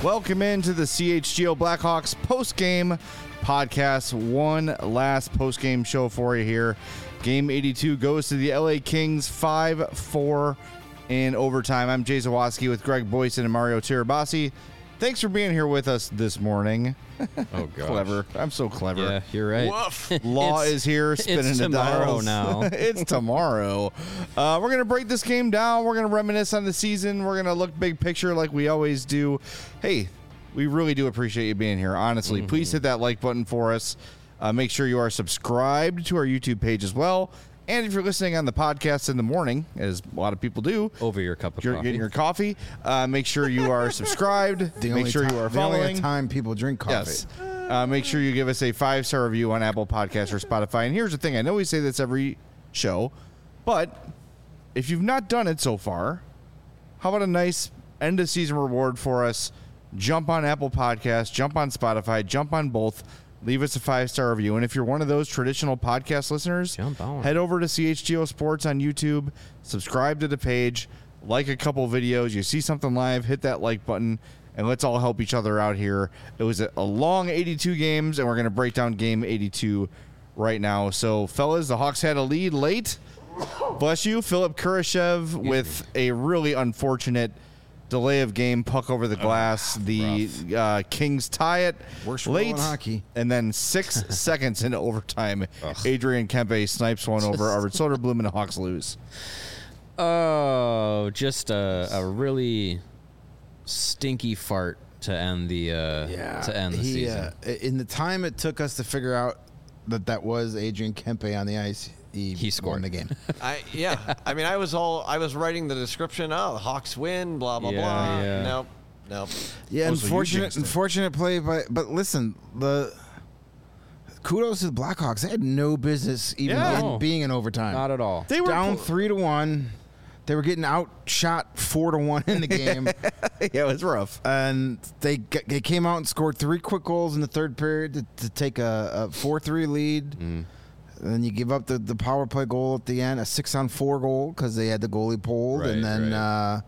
Welcome into the CHGO Blackhawks post-game podcast. One last post-game show for you here. Game 82 goes to the LA Kings 5-4 in overtime. I'm Jay Zawoski with Greg Boyson and Mario Tirabassi. Thanks for being here with us this morning. Oh, gosh. Clever. I'm so clever. Yeah, you're right. Woof. Law is here spinning it's the tomorrow dials. now. It's tomorrow. We're going to break this game down. We're going to reminisce on the season. We're going to look big picture like we always do. Hey, we really do appreciate you being here. Honestly, please hit that like button for us. Make sure you are subscribed to our YouTube page as well. And if you're listening on the podcast in the morning, as a lot of people do, Over your cup of you're coffee. getting your coffee, make sure you are subscribed. Make sure you are The only following. time people drink coffee. Yes. Make sure you give us a 5-star review on Apple Podcasts or Spotify. And here's the thing. I know we say this every show, but if you've not done it so far, how about a nice end-of-season reward for us? Jump on Apple Podcasts, jump on Spotify, jump on both. Leave us a 5-star review. And if you're one of those traditional podcast listeners, Jump on. head over to CHGO Sports on YouTube, subscribe to the page, like a couple videos. You see something live, hit that like button, and let's all help each other out here. It was a long 82 games, and we're going to break down game 82 right now. So, fellas, the Hawks had a lead late. Bless you. Philip Kurashev with a really unfortunate delay of game, puck over the glass. The Kings tie it Worst late rule in hockey. and then 6 seconds into overtime, Adrian Kempe snipes one over Arvid Soderblom, and the Hawks lose. Oh, just a really stinky fart to end the season. In the time it took us to figure out that was Adrian Kempe on the ice, he scored won the game. I mean, I was writing the description. Oh, the Hawks win. Blah blah Yeah, blah. yeah. Nope. Yeah, Oh, so you jinxed it. unfortunate play, but listen, kudos to the Blackhawks. They had no business even Yeah. being in overtime. Not at all. They were down 3-1. They were getting outshot 4-1 in the game. Yeah, it was rough. And they came out and scored 3 quick goals in the third period to take a 4-3 lead. And then you give up the power play goal at the end, a 6-on-4 goal because they had the goalie pulled. Right, and then,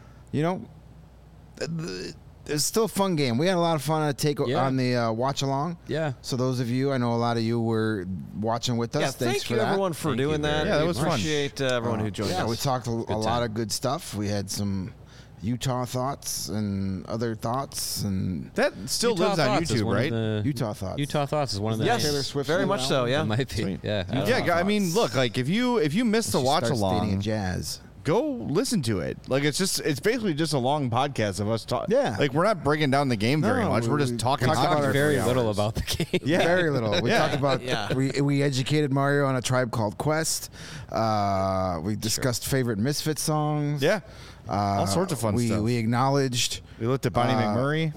it's still a fun game. We had a lot of fun on the watch along. Yeah. So those of you, I know a lot of you were watching with us. Yeah, Thanks thank for you that. everyone for Thank you doing very that. Yeah, that We was fun. appreciate everyone who joined Yeah, us. we talked a lot time. of good stuff. We had some Utah thoughts and other thoughts and That still Utah lives on Thoughts is YouTube, one of right? the- Utah thoughts. Utah Thoughts is one of the Yes, Taylor Swift very new much so. album? Yeah. It might be. Sweet. Yeah. Yeah, I mean, look, like if you miss the She watch starts dating a along, jazz. go listen to it. Like it's basically just a long podcast of us talking. Yeah. Like we're not breaking down the game very No, much. We're just we talking talked hockey about for it very 3 little hours. about the game. Yeah. Very little. We talked about. Yeah. We educated Mario on A Tribe Called Quest. We discussed favorite Misfit songs. Yeah. All sorts of fun stuff. We acknowledged. We looked at Bonnie McMurray.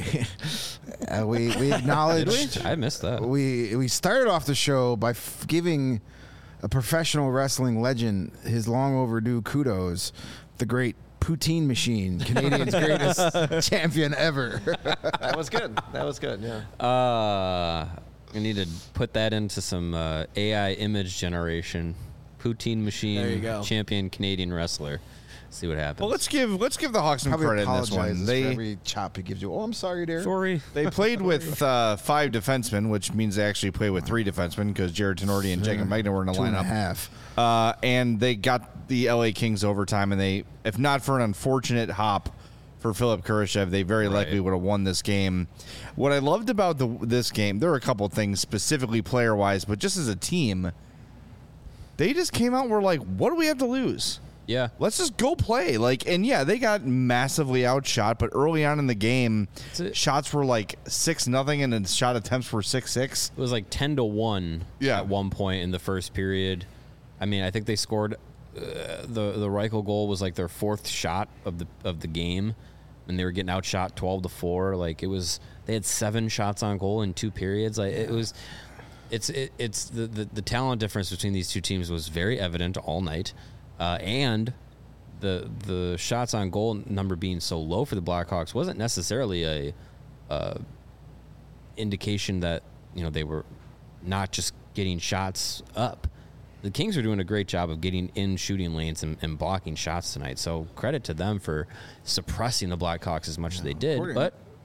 We acknowledged. I missed that. We started off the show by giving a professional wrestling legend his long overdue kudos, the great Poutine Machine, Canadian's greatest champion ever. That was good. That was good. Yeah. I need to put that into some AI image generation. Poutine Machine, There you go. champion Canadian wrestler. See what happens. Well, let's give the Hawks some Probably credit in this apologizes one. for They every chop he gives you. Oh, I'm sorry, dear. Sorry. they played with 5 defensemen, which means they actually played with 3 defensemen because Jared Tenorti and Jacob Magna were in the 2.5. and they got the LA Kings overtime, and they, if not for an unfortunate hop for Philip Kurashev, they very likely would have won this game. What I loved about this game, there were a couple things specifically player-wise, but just as a team, they just came out and were like, what do we have to lose? Yeah. Let's just go play. And they got massively outshot, but early on in the game, shots were like 6-0, and then shot attempts were 6-6. It was like 10-1 at one point in the first period. I mean, I think they scored the Reichel goal was like their 4th shot of the game, and they were getting outshot 12-4. Like they had 7 shots on goal in 2 periods. Like it's the talent difference between these two teams was very evident all night. And the shots on goal number being so low for the Blackhawks wasn't necessarily a indication that they were not just getting shots up. The Kings are doing a great job of getting in shooting lanes and blocking shots tonight. So credit to them for suppressing the Blackhawks as much as they did. But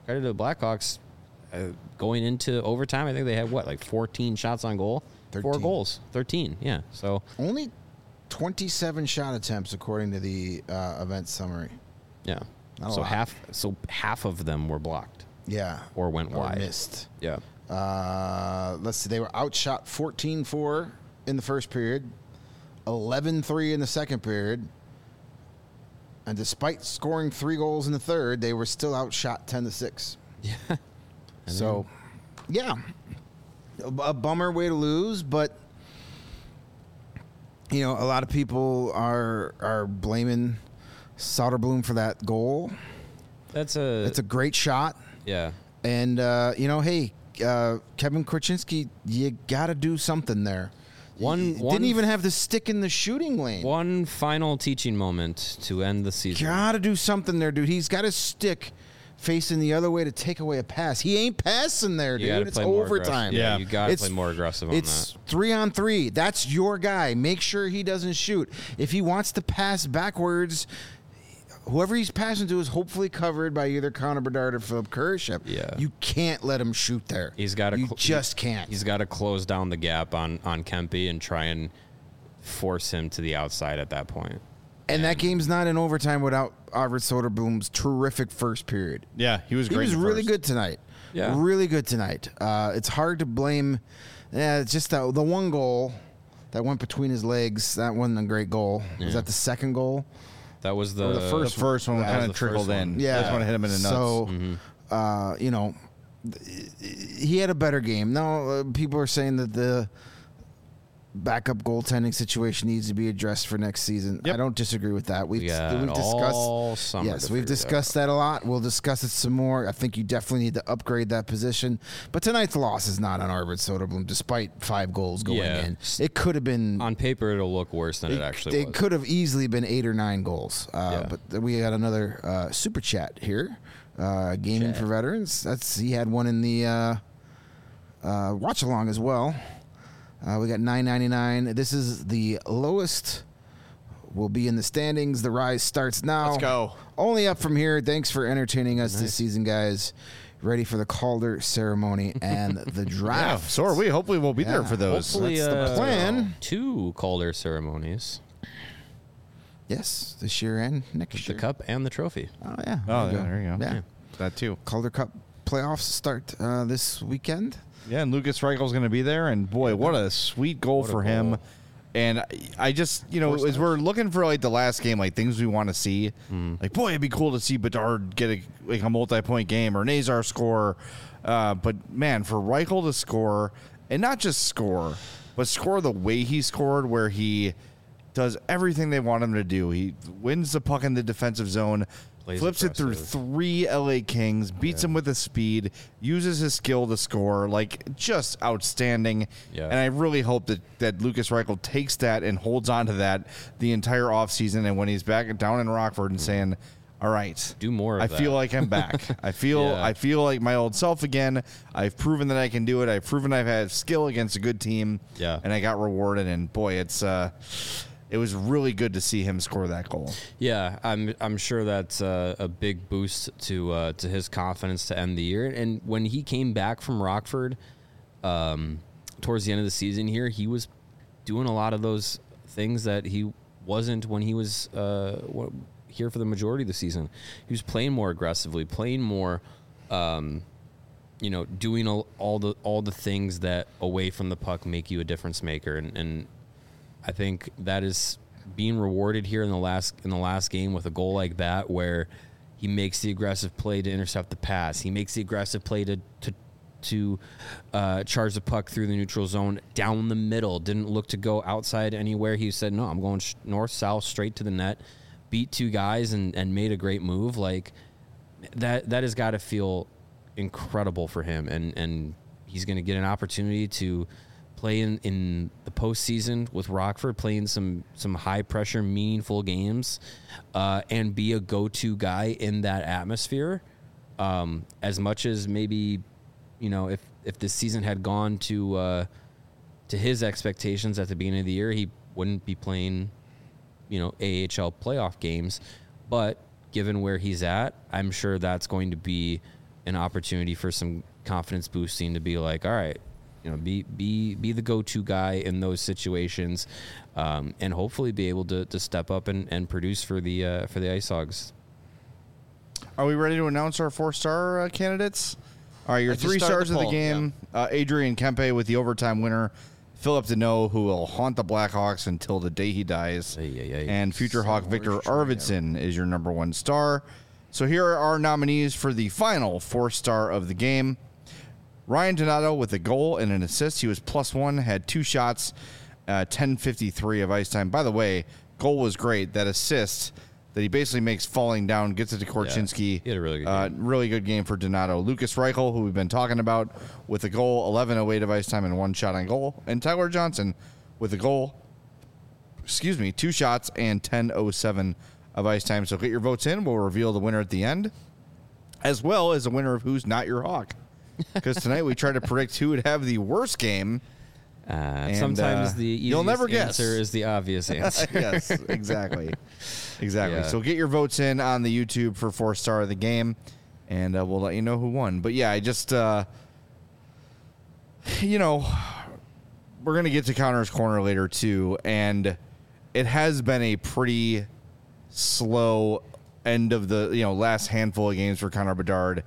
credit to the Blackhawks. Going into overtime, I think they had 14 shots on goal, 13. 4 goals, 13. Yeah, so only 27 shot attempts according to the event summary. yeah, Not a so lot. half of them were blocked. Yeah, Or went wide. missed. Yeah, Let's see, they were outshot 14-4 in the first period, 11-3 in the second period, and despite scoring 3 goals in the third, they were still outshot 10-6. yeah. So, yeah, a bummer way to lose, but a lot of people are blaming Soderblom for that goal. It's It's a great shot, yeah. and hey, Kevin Korchinski, you got to do something there. Didn't even have the stick in the shooting lane. One final teaching moment to end the season. Got to do something there, dude. He's got his stick facing the other way to take away a pass. He ain't passing there, You gotta dude. It's play more overtime. aggressive. Yeah, Yeah. you got to It's- play more aggressive on It's that. 3-on-3. That's your guy. Make sure he doesn't shoot. If he wants to pass backwards, whoever he's passing to is hopefully covered by either Connor Bedard or Philip Kurashev. Yeah. You can't let him shoot there. He's got to. You just can't. He's got to close down the gap on Kempe and try and force him to the outside at that point. And that game's not in overtime without Arvid Soderblom's terrific first period. Yeah, he was He great. was in the really first. good tonight. Yeah. Really good tonight. It's hard to blame. Yeah, it's just the one goal that went between his legs. That wasn't a great goal. Was that the second goal? That was Or the The first first one That was kind the of trickled first in. one. Yeah. That's when it hit him in the nuts. So, he had a better game. No, people are saying that the backup goaltending situation needs to be addressed for next season. Yep. I don't disagree with that. We've got all discussed. summer Yes, to we've figure it discussed that a lot. We'll discuss it some more. I think you definitely need to upgrade that position. But tonight's loss is not on Arvid Soderblom, despite 5 goals going Yeah. in. It could have been. on paper. It'll look worse than it actually It was. could have easily been 8 or 9 goals. Yeah. But we got another super chat here. Gaming for Veterans. He had one in the watch along as well. We got $9.99. This is the lowest. Will be in the standings. The rise starts now. Let's go. Only up from here. Thanks for entertaining us this season, guys. Ready for the Calder ceremony and the Yeah, draft. so are we. Hopefully, we'll be there for those. Hopefully, That's the plan. 2 Calder ceremonies: Yes, this year and next the year. cup and the trophy. Oh yeah. Oh, yeah, there you go. Yeah. That too. Calder Cup playoffs start this weekend. Yeah, and Lucas Reichel's going to be there, and boy, what a sweet goal What a for him. goal. And I just, as we're looking for the last game, things we want to see, boy, it'd be cool to see Bedard get a multi-point game or Nazar score. But man, for Reichel to score, and not just score, but score the way he scored, where he does everything they want him to do. He wins the puck in the defensive zone, Plays flips it through aggressive. 3 LA Kings, beats him with his speed, uses his skill to score, just outstanding. Yeah. And I really hope that Lucas Reichel takes that and holds on to that the entire offseason, and when he's back down in Rockford and saying, all right, Do more of I that. feel like I'm back. I feel like my old self again. I've proven that I can do it. I've proven I've had skill against a good team. Yeah. And I got rewarded, and boy, it was really good to see him score that goal. Yeah, I'm sure that's a big boost to his confidence to end the year. And when he came back from Rockford, towards the end of the season here, he was doing a lot of those things that he wasn't when he was here for the majority of the season. He was playing more aggressively, playing more, doing all the things that away from the puck make you a difference maker. And I think that is being rewarded here in the last game with a goal like that, where he makes the aggressive play to intercept the pass. He makes the aggressive play to charge the puck through the neutral zone down the middle. Didn't look to go outside anywhere. He said, no, I'm going north, south, straight to the net. Beat 2 guys and made a great move. Like that has got to feel incredible for him. And he's going to get an opportunity to play in the postseason with Rockford, playing some high pressure, meaningful games, and be a go-to guy in that atmosphere. As much as maybe, if this season had gone to his expectations at the beginning of the year, he wouldn't be playing, AHL playoff games. But given where he's at, I'm sure that's going to be an opportunity for some confidence boosting to be like, all right, be the go-to guy in those situations, and hopefully be able to step up and produce for the Ice Hogs. Are we ready to announce our 4-star candidates? All right, your 3 stars of the game: Adrian Kempe with the overtime winner. Philip Deneau, who will haunt the Blackhawks until the day he dies. And future Hawk Victor Arvidsson is your number 1 star. So here are our nominees for the final 4-star of the game. Ryan Donato with a goal and an assist. He was +1, had 2 shots, 10:53 of ice time. By the way, goal was great. That assist that he basically makes falling down, gets it to Korchinski. He had a really good game. Really good game for Donato. Lucas Reichel, who we've been talking about, with a goal, 11:08 of ice time and 1 shot on goal. And Tyler Johnson with a goal, 2 shots and 10:07 of ice time. So get your votes in. We'll reveal the winner at the end, as well as the winner of Who's Not Your Hawk. Because tonight we try to predict who would have the worst game. Sometimes the you'll never easiest answer guess. is the obvious answer. Yes, exactly. Yeah. So get your votes in on the YouTube for 4-star of the game, and we'll let you know who won. But yeah, I just, we're going to get to Connor's Corner later too, and it has been a pretty slow end of the last handful of games for Connor Bedard.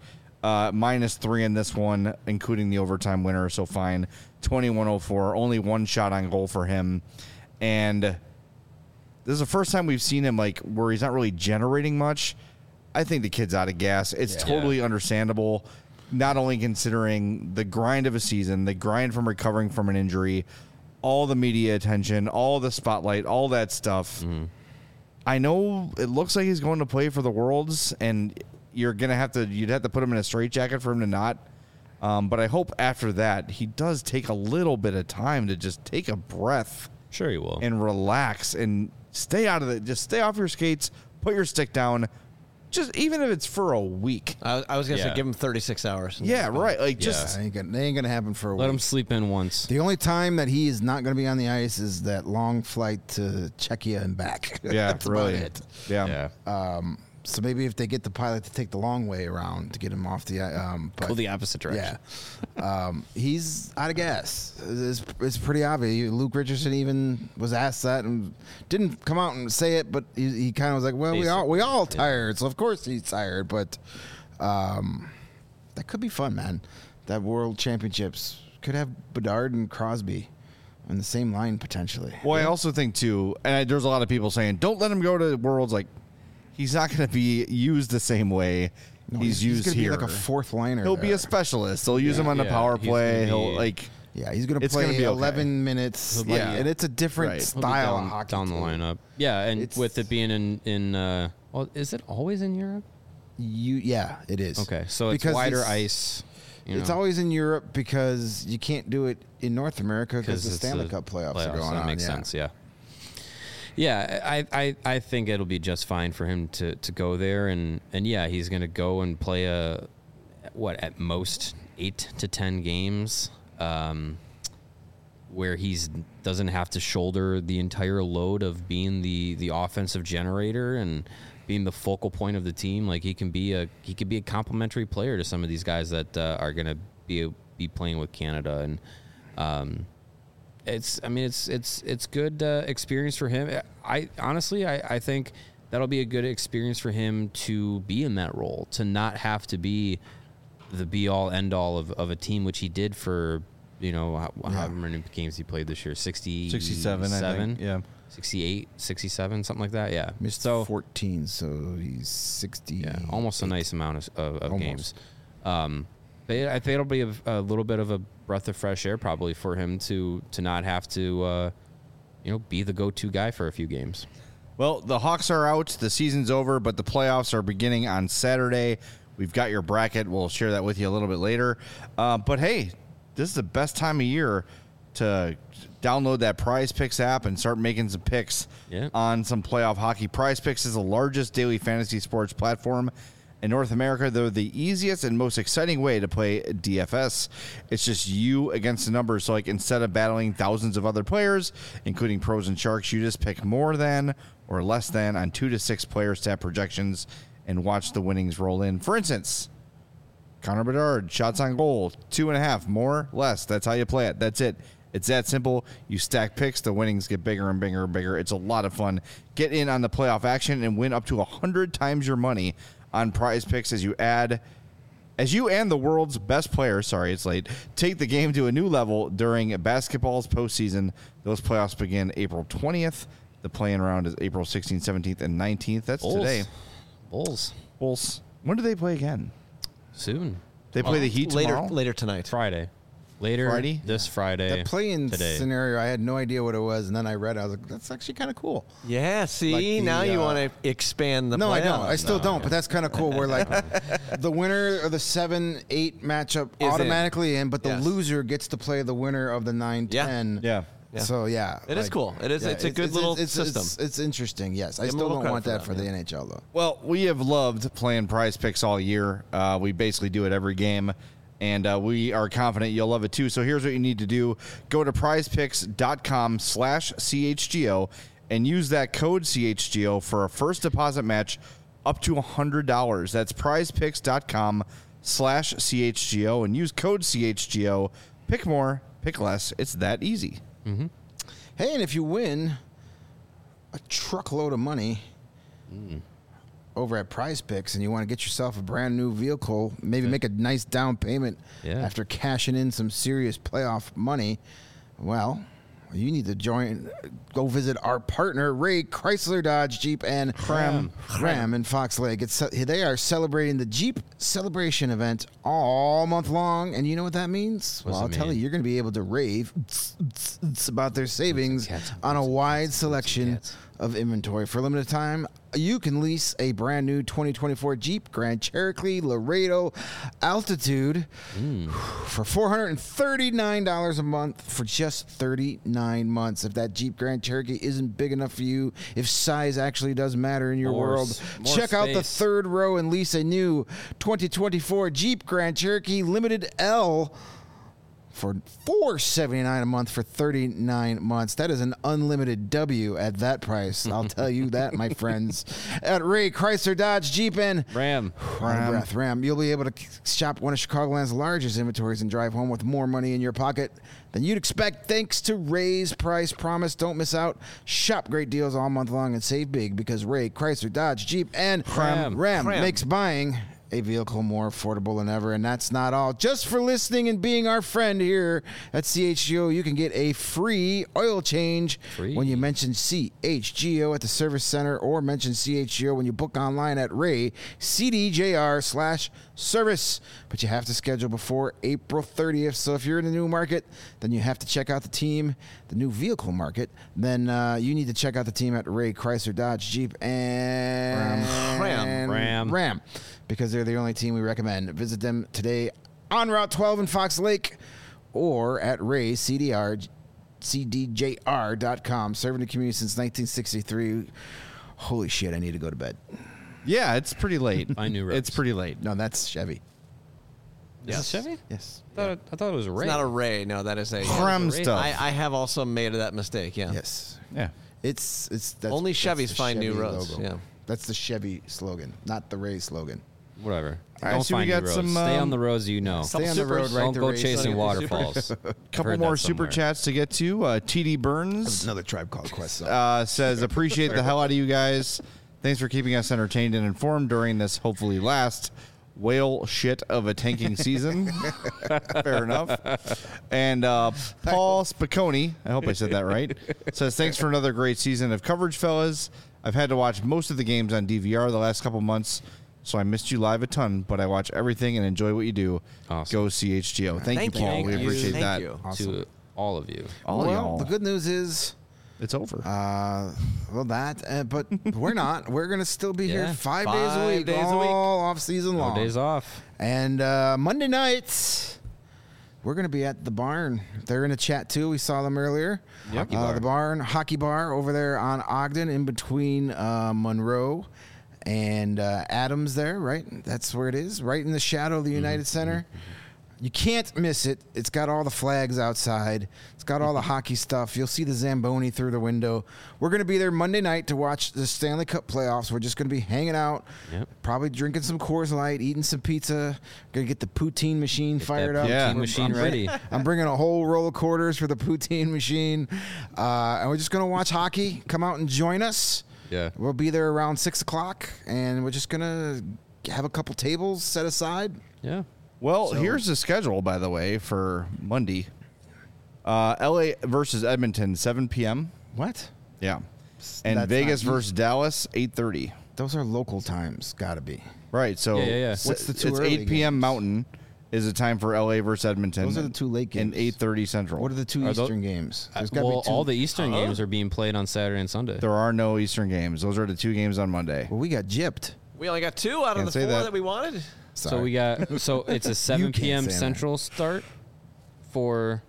-3 in this one, including the overtime winner. So fine, 21:04, only 1 shot on goal for him, and this is the first time we've seen him where he's not really generating much. I think the kid's out of gas. It's totally understandable, not only considering the grind of a season, the grind from recovering from an injury, all the media attention, all the spotlight, all that stuff. I know it looks like he's going to play for the Worlds, and you'd have to put him in a straitjacket for him to not. But I hope after that he does take a little bit of time to just take a breath. Sure, he will. And relax and stay out of it. Just stay off your skates. Put your stick down. Just even if it's for a week. I was gonna say give him 36 hours. Yeah, right. They ain't gonna happen for a week. Let him sleep in once. The only time that he is not gonna be on the ice is that long flight to Czechia and back. Yeah, That's really. about it. Yeah. So maybe if they get the pilot to take the long way around to get him off the go the opposite direction. Yeah, he's out of gas. It's pretty obvious. Luke Richardson even was asked that and didn't come out and say it, but he kind of was like, "Well, we all tired, so of course he's tired." But that could be fun, man. That World Championships could have Bedard and Crosby on the same line potentially. Well, I also think too, and there's a lot of people saying, "Don't let him go to Worlds." He's not going to be used the same way he's used gonna here. Be like a 4th liner. He'll be a specialist. They'll use him on the power play. He's going to play 11 minutes. And it's a different style of hockey down the lineup. Yeah, and with it being in is it always in Europe? It is. Okay, so it's wider ice. It's always in Europe because you can't do it in North America because the Stanley Cup playoffs are going on. That makes sense. Yeah. Yeah, I think it'll be just fine for him to go there, and he's going to go and play at most 8 to 10 games, where he doesn't have to shoulder the entire load of being the offensive generator and being the focal point of the team. He can be a complementary player to some of these guys that are going to be playing with Canada, and it's good experience for him. I honestly think that'll be a good experience for him to be in that role, to not have to be the be all end all of a team, which he did for however many games he played this year, 67, I think. Yeah. 68, 67, something like that. Yeah. Missed 14, so he's 60. Yeah, almost a nice amount of games. I think it'll be a little bit of a breath of fresh air probably for him to not have to be the go-to guy for a few games. Well, the Hawks are out. The season's over, but the playoffs are beginning on Saturday. We've got your bracket. We'll share that with you a little bit later. But hey, this is the best time of year to download that Prize Picks app and start making some picks on some playoff hockey. Prize Picks is the largest daily fantasy sports platform in North America. They're the easiest and most exciting way to play DFS. It's just you against the numbers. So instead of battling thousands of other players, including pros and sharks, you just pick more than or less than on 2 to 6 player stat projections and watch the winnings roll in. For instance, Connor Bedard, shots on goal, 2.5, more, less. That's how you play it. That's it. It's that simple. You stack picks, the winnings get bigger and bigger and bigger. It's a lot of fun. Get in on the playoff action and win up to 100 times your money on Prize Picks as you and the world's best players, take the game to a new level during basketball's postseason. Those playoffs begin April 20th. The play-in round is April 16th, 17th, and 19th. That's Bulls. today. Bulls. When do they play again? Soon. They play the Heat tomorrow? Later tonight. Friday. Friday? This Friday. That play-in today. scenario, I had no idea what it was, and then I read it. I was like, that's actually kind of cool. Yeah, see, now you want to expand the No, playoffs. I don't. I still don't, but that's kind of cool where, like, the winner of the 7-8 matchup Is automatically in, but the Yes. loser gets to play the winner of the 9-10. Yeah. So, yeah. It is cool. It is. It's a good little system. It's interesting, yes. I Give 'em a still little don't want credit that for for that, the NHL, though. Well, we have loved playing Prize Picks all year. We basically do it every game, and we are confident you'll love it too. So here's what you need to do. Go to prizepicks.com/CHGO and use that code CHGO for a first deposit match up to $100. That's prizepicks.com/CHGO and use code CHGO. Pick more, pick less. It's that easy. Mm-hmm. Hey, and if you win a truckload of money over at Prize Picks and you want to get yourself a brand new vehicle, maybe make a nice down payment after cashing in some serious playoff money, well, you need to go visit our partner, Ray Chrysler Dodge Jeep and Ram in Fox Lake. They are celebrating the Jeep Celebration event all month long, and you know what that means? Well, I'll tell you, you're going to be able to rave about their savings on a wide selection of inventory. For a limited time, you can lease a brand new 2024 Jeep Grand Cherokee Laredo Altitude for $439 a month for just 39 months. If that Jeep Grand Cherokee isn't big enough for you, if size actually does matter in your world, check out the third row and lease a new 2024 Jeep Grand Cherokee Limited L for $479 a month for 39 months. That is an unlimited W at that price. I'll tell you that, my friends. At Ray Chrysler Dodge Jeep and Ram. You'll be able to shop one of Chicagoland's largest inventories and drive home with more money in your pocket than you'd expect thanks to Ray's price promise. Don't miss out. Shop great deals all month long and save big because Ray Chrysler Dodge Jeep and Ram makes buying a vehicle more affordable than ever. And that's not all. Just for listening and being our friend here at CHGO, you can get a free oil change when you mention CHGO at the service center or mention CHGO when you book online at Ray CDJR/service. But you have to schedule before April 30th. So if you're in the new market, then you have to check out the team, the new vehicle market. Then you need to check out the team at Ray Chrysler Dodge Jeep and Ram. Because they're the only team we recommend. Visit them today on Route 12 in Fox Lake or at CDJR.com. Serving the community since 1963. Holy shit, I need to go to bed. Yeah, it's pretty late. I knew it's pretty late. No, that's Chevy. Is it Chevy? Yes. I thought it was Ray. It's not a Ray. No, that is a Ram stuff. I have also made that mistake. Yeah. Yes. Yeah. That's Only Chevys the find new Chevy roads. logo. Yeah. That's the Chevy slogan, not the Ray slogan. Whatever. All right, Don't so we find got new roads. some, Stay on the roads you know. Stay on the road, right? Don't to go Ray chasing slogan. waterfalls. Couple more super chats to get to. TD Burns Another Tribe Called Quest song. says, appreciate the hell out of you guys. Thanks for keeping us entertained and informed during this hopefully last whale shit of a tanking season. Fair enough. And Paul Spiconi, I hope I said that right, says, thanks for another great season of coverage, fellas. I've had to watch most of the games on DVR the last couple months, so I missed you live a ton, but I watch everything and enjoy what you do. Awesome. Go CHGO. Thank you, Paul. We appreciate that. Thank you. Awesome. To all of you. All y'all. The good news is, It's over. but we're not. We're going to still be here Yeah. 5 days a week, days a week. all off season long. No days off. And Monday nights, we're going to be at the Barn. They're in the chat too. We saw them earlier. Hockey bar. The Barn, Hockey Bar over there on Ogden in between Monroe and Adams there, right? That's where it is, right in the shadow of the United Center. You can't miss it. It's got all the flags outside. It's got all the hockey stuff. You'll see the Zamboni through the window. We're going to be there Monday night to watch the Stanley Cup playoffs. We're just going to be hanging out, probably drinking some Coors Light, eating some pizza. Going to get the poutine machine fired up. Poutine machine ready. I'm bringing a whole roll of quarters for the poutine machine. And we're just going to watch hockey. Come out and join us. Yeah. We'll be there around 6 o'clock, and we're just going to have a couple tables set aside. Yeah. Well, here's the schedule, by the way, for Monday. LA versus Edmonton, 7 p.m. What? Yeah. And That's Vegas not- versus Dallas, 8:30. Those are local times. Got to be. Right. So Yeah. What's the two it's early 8 p.m. games? Mountain is the time for LA versus Edmonton. Those are the two late And games. 8:30 Central. What are the two Are tho- Eastern games? There's got to Well, be two. all the Eastern games are being played on Saturday and Sunday. There are no Eastern games. Those are the 2 games on Monday. Well, we got gypped. We only got 2 out of Can't the say 4 that. that we wanted. Sorry. So we got it's a 7 can't p.m. say that. Central start for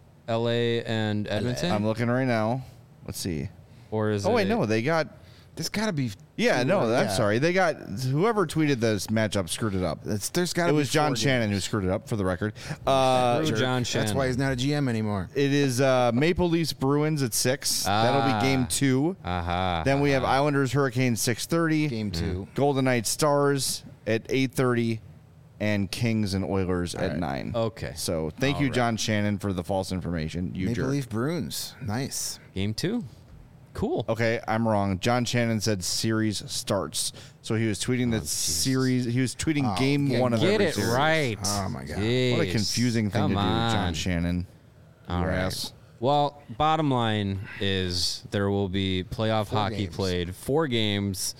LA and Edmonton, I'm looking right now. Let's see. or is Oh, wait, it, no. They got. There's got to be. Yeah, no, I'm yeah. sorry. They got. Whoever tweeted this matchup screwed it up. There's got to It be was John 4 Shannon who games. screwed it up, for the record. Screw John Shannon. That's why he's not a GM anymore. It is Maple Leafs Bruins at 6. That'll be game 2. Aha. Then we have Islanders Hurricanes 6:30. Game 2. Golden Knights Stars at 8:30, and Kings and Oilers at 9. Okay. So thank you, John Shannon, for the false information. You Maple jerk. Leaf Bruins. Nice. Game 2. Cool. Okay, I'm wrong. John Shannon said series starts. So he was tweeting that series. He was tweeting game yeah, 1 of Get every it series. right. Oh, my God. What a Jeez. confusing thing Come to do, on. John Shannon. All Your right. ass. Well, bottom line is there will be playoff 4 hockey games. played. 4 games.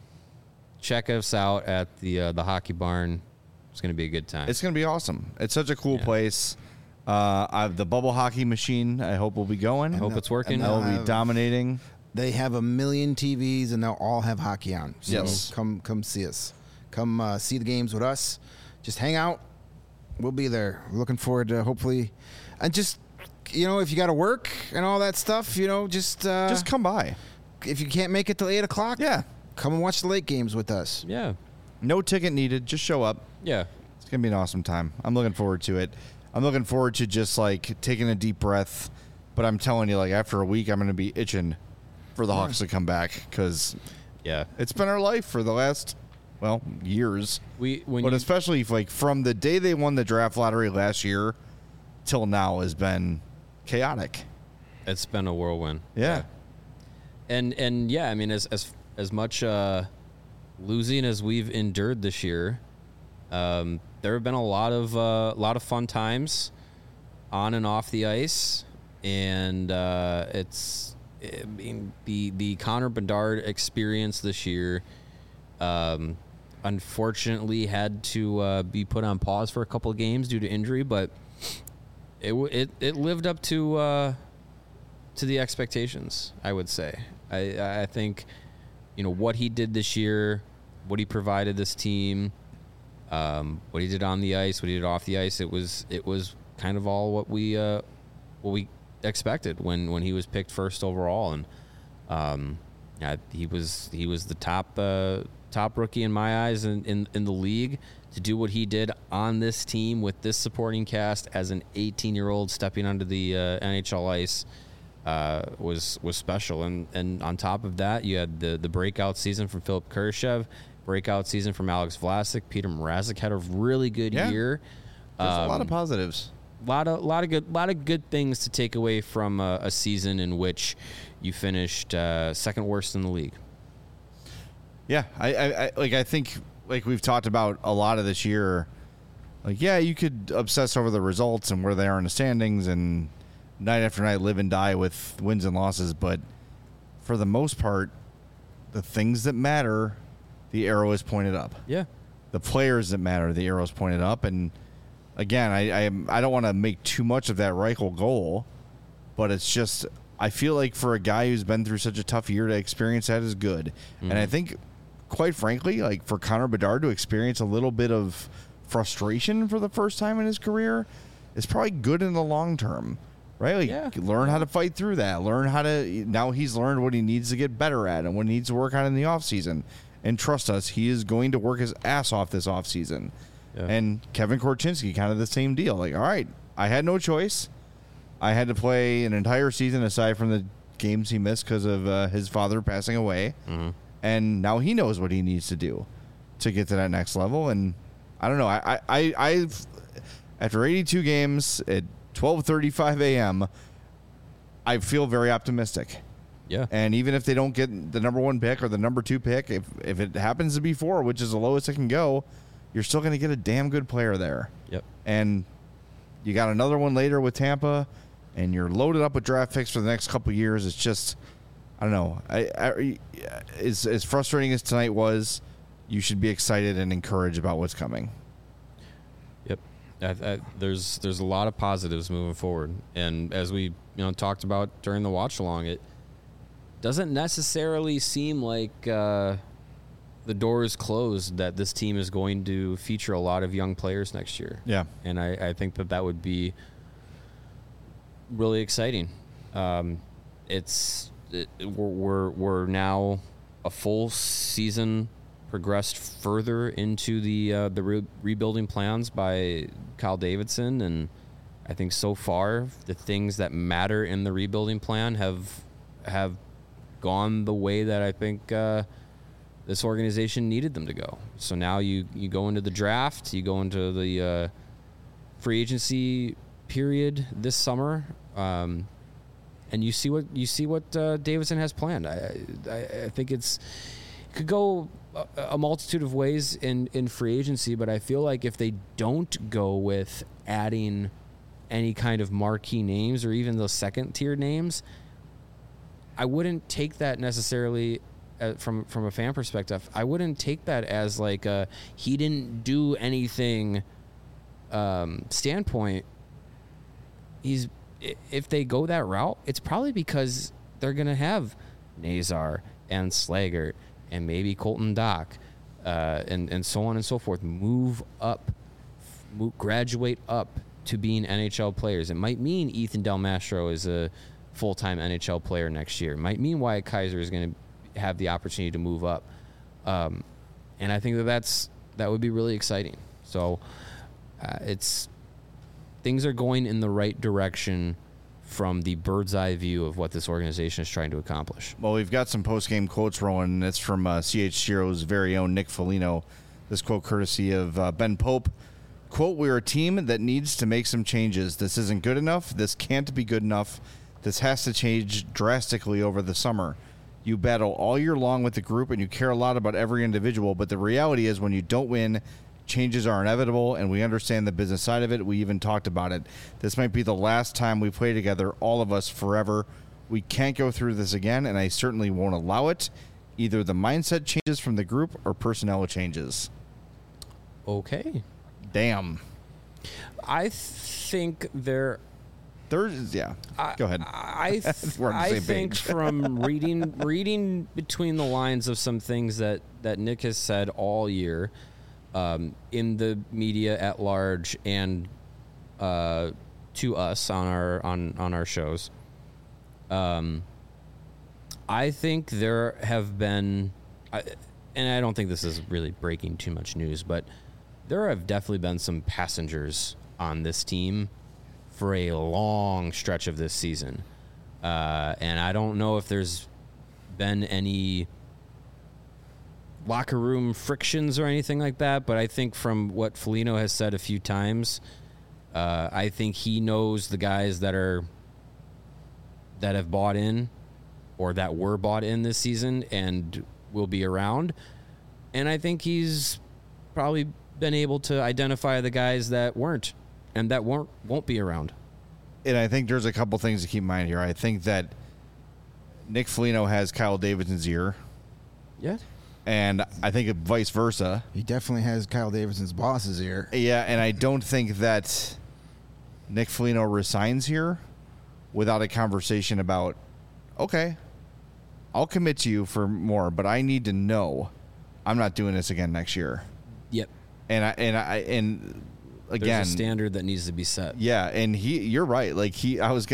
Check us out at the Hockey Barn. It's going to be a good time. It's going to be awesome. It's such a cool place. The bubble hockey machine, I hope, will be going. I hope it's working. That will They'll be have- dominating. They have 1 million TVs, and they'll all have hockey on. So Yes. come see us. Come see the games with us. Just hang out. We'll be there. We're looking forward to hopefully, and just if you got to work and all that stuff, just Just come by. if you can't make it till 8 o'clock, Yeah. come and watch the late games with us. Yeah. No ticket needed. Just show up. Yeah. It's going to be an awesome time. I'm looking forward to it. I'm looking forward to just like taking a deep breath. But I'm telling you, like after a week, I'm going to be itching for the Hawks to come back because Yeah. it's been our life for the last, years. When But you, especially like from the day they won the draft lottery last year till now has been chaotic. it's been a whirlwind. Yeah. And yeah, I mean, as much losing as we've endured this year, there have been a lot of fun times on and off the ice, and the Connor Bedard experience this year, unfortunately, had to be put on pause for a couple of games due to injury, but it lived up to the expectations, I would say. I think, what he did this year, what he provided this team, what he did on the ice, what he did off the ice, it was kind of all what we expected when he was picked first overall, and he was the top rookie in my eyes in the league to do what he did on this team with this supporting cast as an 18-year-old stepping onto the NHL ice. Was special, and on top of that, you had the breakout season from Philip Kurashev, breakout season from Alex Vlasic. Peter Mrazek had a really good year. There's a lot of positives. lot of good things to take away from a season in which you finished second worst in the league. Yeah, I think like we've talked about a lot of this year. Like, yeah, you could obsess over the results and where they are in the standings and night after night live and die with wins and losses, but for the most part, the things that matter, the arrow is pointed up. Yeah. The players that matter, the arrow is pointed up. And again, I don't want to make too much of that Reichel goal, but it's just I feel like for a guy who's been through such a tough year to experience that is good. Mm-hmm. And I think, quite frankly, like for Connor Bedard to experience a little bit of frustration for the first time in his career is probably good in the long term. Right? Like, learn how to fight through that. Now he's learned what he needs to get better at and what he needs to work on in the offseason. And trust us, he is going to work his ass off this offseason. Yeah. And Kevin Korchinski, kind of the same deal. Like, all right, I had no choice. I had to play an entire season aside from the games he missed because of his father passing away. Mm-hmm. And now he knows what he needs to do to get to that next level. And I don't know. I've after 82 games at 12:35 a.m., I feel very optimistic. Yeah. And even if they don't get the number 1 pick or the number 2 pick, if it happens to be 4, which is the lowest it can go, you're still going to get a damn good player there. Yep. And you got another one later with Tampa, and you're loaded up with draft picks for the next couple of years. It's just, I don't know. As frustrating as tonight was, you should be excited and encouraged about what's coming. Yep. There's a lot of positives moving forward, and as we talked about during the watch along, it doesn't necessarily seem like the door is closed that this team is going to feature a lot of young players next year. Yeah, and I think that would be really exciting. We're now a full season progressed further into the rebuilding plans by Kyle Davidson, and I think so far the things that matter in the rebuilding plan have gone the way that I think this organization needed them to go. So now you go into the draft, you go into the free agency period this summer, and you see what Davidson has planned. I think it could go a multitude of ways in free agency, but I feel like if they don't go with adding any kind of marquee names or even those second tier names, I wouldn't take that necessarily from a fan perspective. I wouldn't take that as like he didn't do anything standpoint. If they go that route, it's probably because they're going to have Nazar and Slaggert and maybe Colton Dock and so on and so forth graduate up to being NHL players. It might mean Ethan Del Mastro is a full-time NHL player next year. It might mean Wyatt Kaiser is going to have the opportunity to move up. And I think that would be really exciting. So things are going in the right direction from the bird's eye view of what this organization is trying to accomplish. Well, we've got some post-game quotes rolling. It's from CHGO's very own Nick Foligno. This quote courtesy of Ben Pope. Quote, "We're a team that needs to make some changes. This isn't good enough. This can't be good enough. This has to change drastically over the summer. You battle all year long with the group and you care a lot about every individual, but the reality is when you don't win, changes are inevitable, and we understand the business side of it. We even talked about it. This might be the last time we play together, all of us, forever. We can't go through this again, and I certainly won't allow it. Either the mindset changes from the group or personnel changes." Okay. Damn. I think yeah. Go ahead. I think from reading between the lines of some things that Nick has said all year, in the media at large and to us on our shows, I think there have been, and I don't think this is really breaking too much news, but there have definitely been some passengers on this team for a long stretch of this season. And I don't know if there's been any locker room frictions or anything like that, but I think from what Foligno has said a few times, I think he knows the guys that have bought in or that were bought in this season and will be around. And I think he's probably been able to identify the guys that weren't and that won't be around. And I think there's a couple things to keep in mind here. I think that Nick Foligno has Kyle Davidson's ear. Yeah. And I think vice versa. He definitely has Kyle Davidson's boss's ear. Yeah, and I don't think that Nick Foligno resigns here without a conversation about, okay, I'll commit to you for more, but I need to know I'm not doing this again next year. Yep. And again, there's a standard that needs to be set. Yeah, and you're right. Like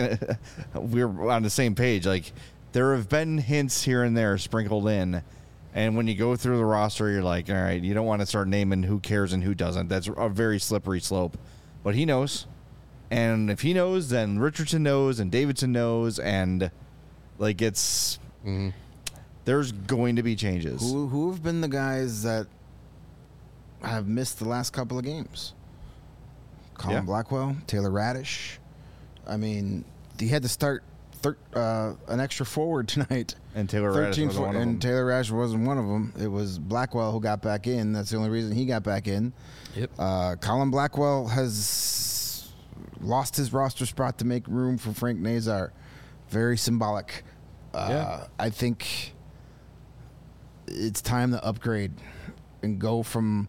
we were on the same page. Like there have been hints here and there sprinkled in And when you go through the roster, you're like, all right, you don't want to start naming who cares and who doesn't. That's a very slippery slope. But he knows. And if he knows, then Richardson knows and Davidson knows. And, like, it's... Mm-hmm. There's going to be changes. Who have been the guys that have missed the last couple of games? Colin Blackwell, Taylor Radish. I mean, he had to start an extra forward tonight. And Taylor Radish wasn't one of them. And Taylor Radish wasn't one of them. It was Blackwell who got back in. That's the only reason he got back in. Yep. Colin Blackwell has lost his roster spot to make room for Frank Nazar. Very symbolic. I think it's time to upgrade and go from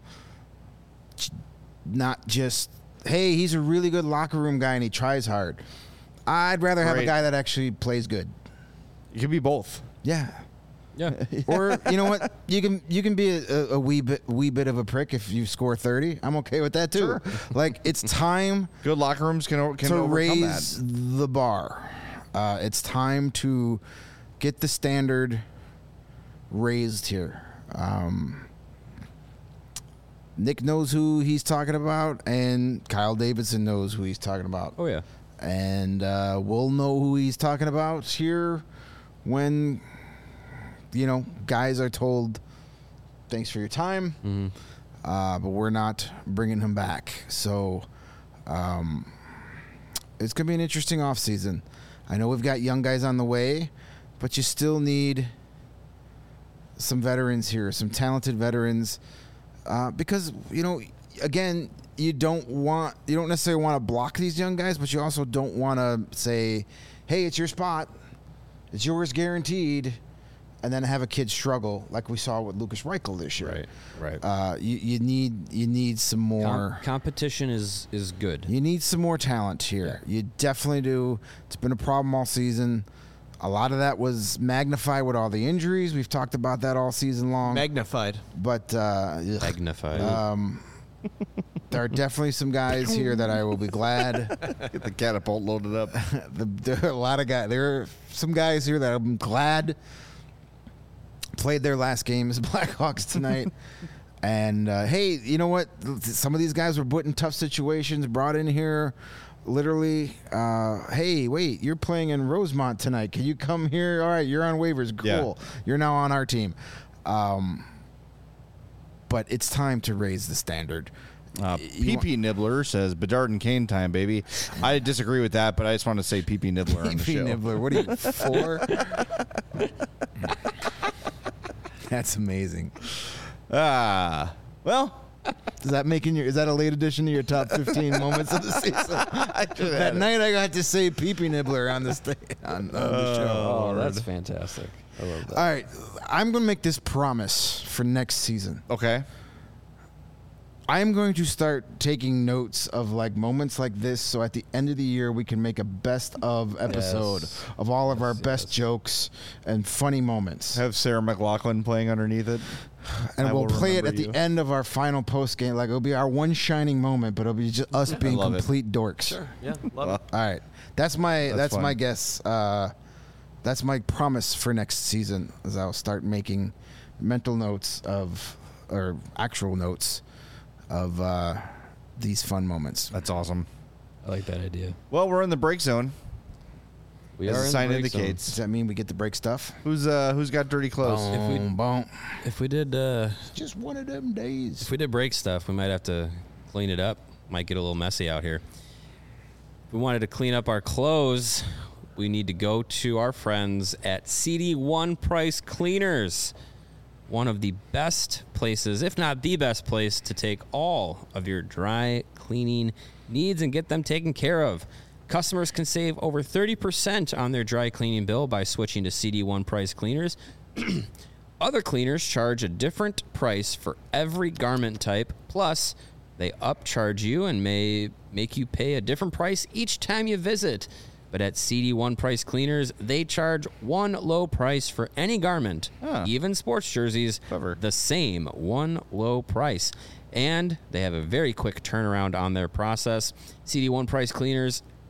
not just, hey, he's a really good locker room guy and he tries hard. I'd rather have a guy that actually plays good. You can be both. Yeah. Yeah. Or you know what? You can be a wee bit of a prick if you score 30. I'm okay with that too. Sure. Like, it's time Good locker rooms can to overcome raise that. the bar. It's time to get the standard raised here. Nick knows who he's talking about, and Kyle Davidson knows who he's talking about. Oh, yeah. And we'll know who he's talking about here when, guys are told, thanks for your time, but we're not bringing him back. So it's going to be an interesting offseason. I know we've got young guys on the way, but you still need some veterans here, some talented veterans, because, again, you don't necessarily want to block these young guys, but you also don't want to say, hey, it's your spot, it's yours guaranteed, and then have a kid struggle like we saw with Lucas Reichel this year. Right. You need some more competition is good. You need some more talent here. Yeah. You definitely do. It's been a problem all season. A lot of that was magnified with all the injuries. We've talked about that all season long. Magnified. But Magnified. there are definitely some guys here that I will be glad. Get the catapult loaded up. There are a lot of guys. There are some guys here that I'm glad played their last game as Blackhawks tonight. And, hey, you know what? Some of these guys were put in tough situations, brought in here literally, hey, wait, you're playing in Rosemont tonight. Can you come here? All right, you're on waivers. Cool. Yeah. You're now on our team. But it's time to raise the standard. PP Nibbler says Bedard and Kane time, baby. I disagree with that, but I just want to say PP Nibbler on the show. PP Nibbler, what are you, 4? That's amazing. Well, is that a late addition to your top 15 moments of the season? That night I got to say PP Nibbler on the show. Oh, that's fantastic. I love that. All right, I'm going to make this promise for next season. Okay. I'm going to start taking notes of moments like this, so at the end of the year we can make a best of episode of all of our best jokes and funny moments. Have Sarah McLachlan playing underneath it, and we'll play it at the end of our final post game. It'll be our one shining moment, but it'll be just us being complete dorks. Sure. Yeah. Love it. All right. That's my guess. That's my promise for next season. Is I'll start making mental notes or actual notes of these fun moments. That's awesome. I like that idea. Well, we're in the break zone. We as are the in sign the break indicates. zone. Does that mean we get to break stuff? Who's got dirty clothes? If we did just one of them days. If we did break stuff, we might have to clean it up. Might get a little messy out here. If we wanted to clean up our clothes, we need to go to our friends at CD1 Price Cleaners. One of the best places, if not the best place, to take all of your dry cleaning needs and get them taken care of. Customers can save over 30% on their dry cleaning bill by switching to CD1 Price Cleaners. Other cleaners charge a different price for every garment type. Plus, they upcharge you and may make you pay a different price each time you visit. But at CD1 Price Cleaners, they charge one low price for any garment, even sports jerseys, the same one low price. And they have a very quick turnaround on their process. CD1 Price Cleaners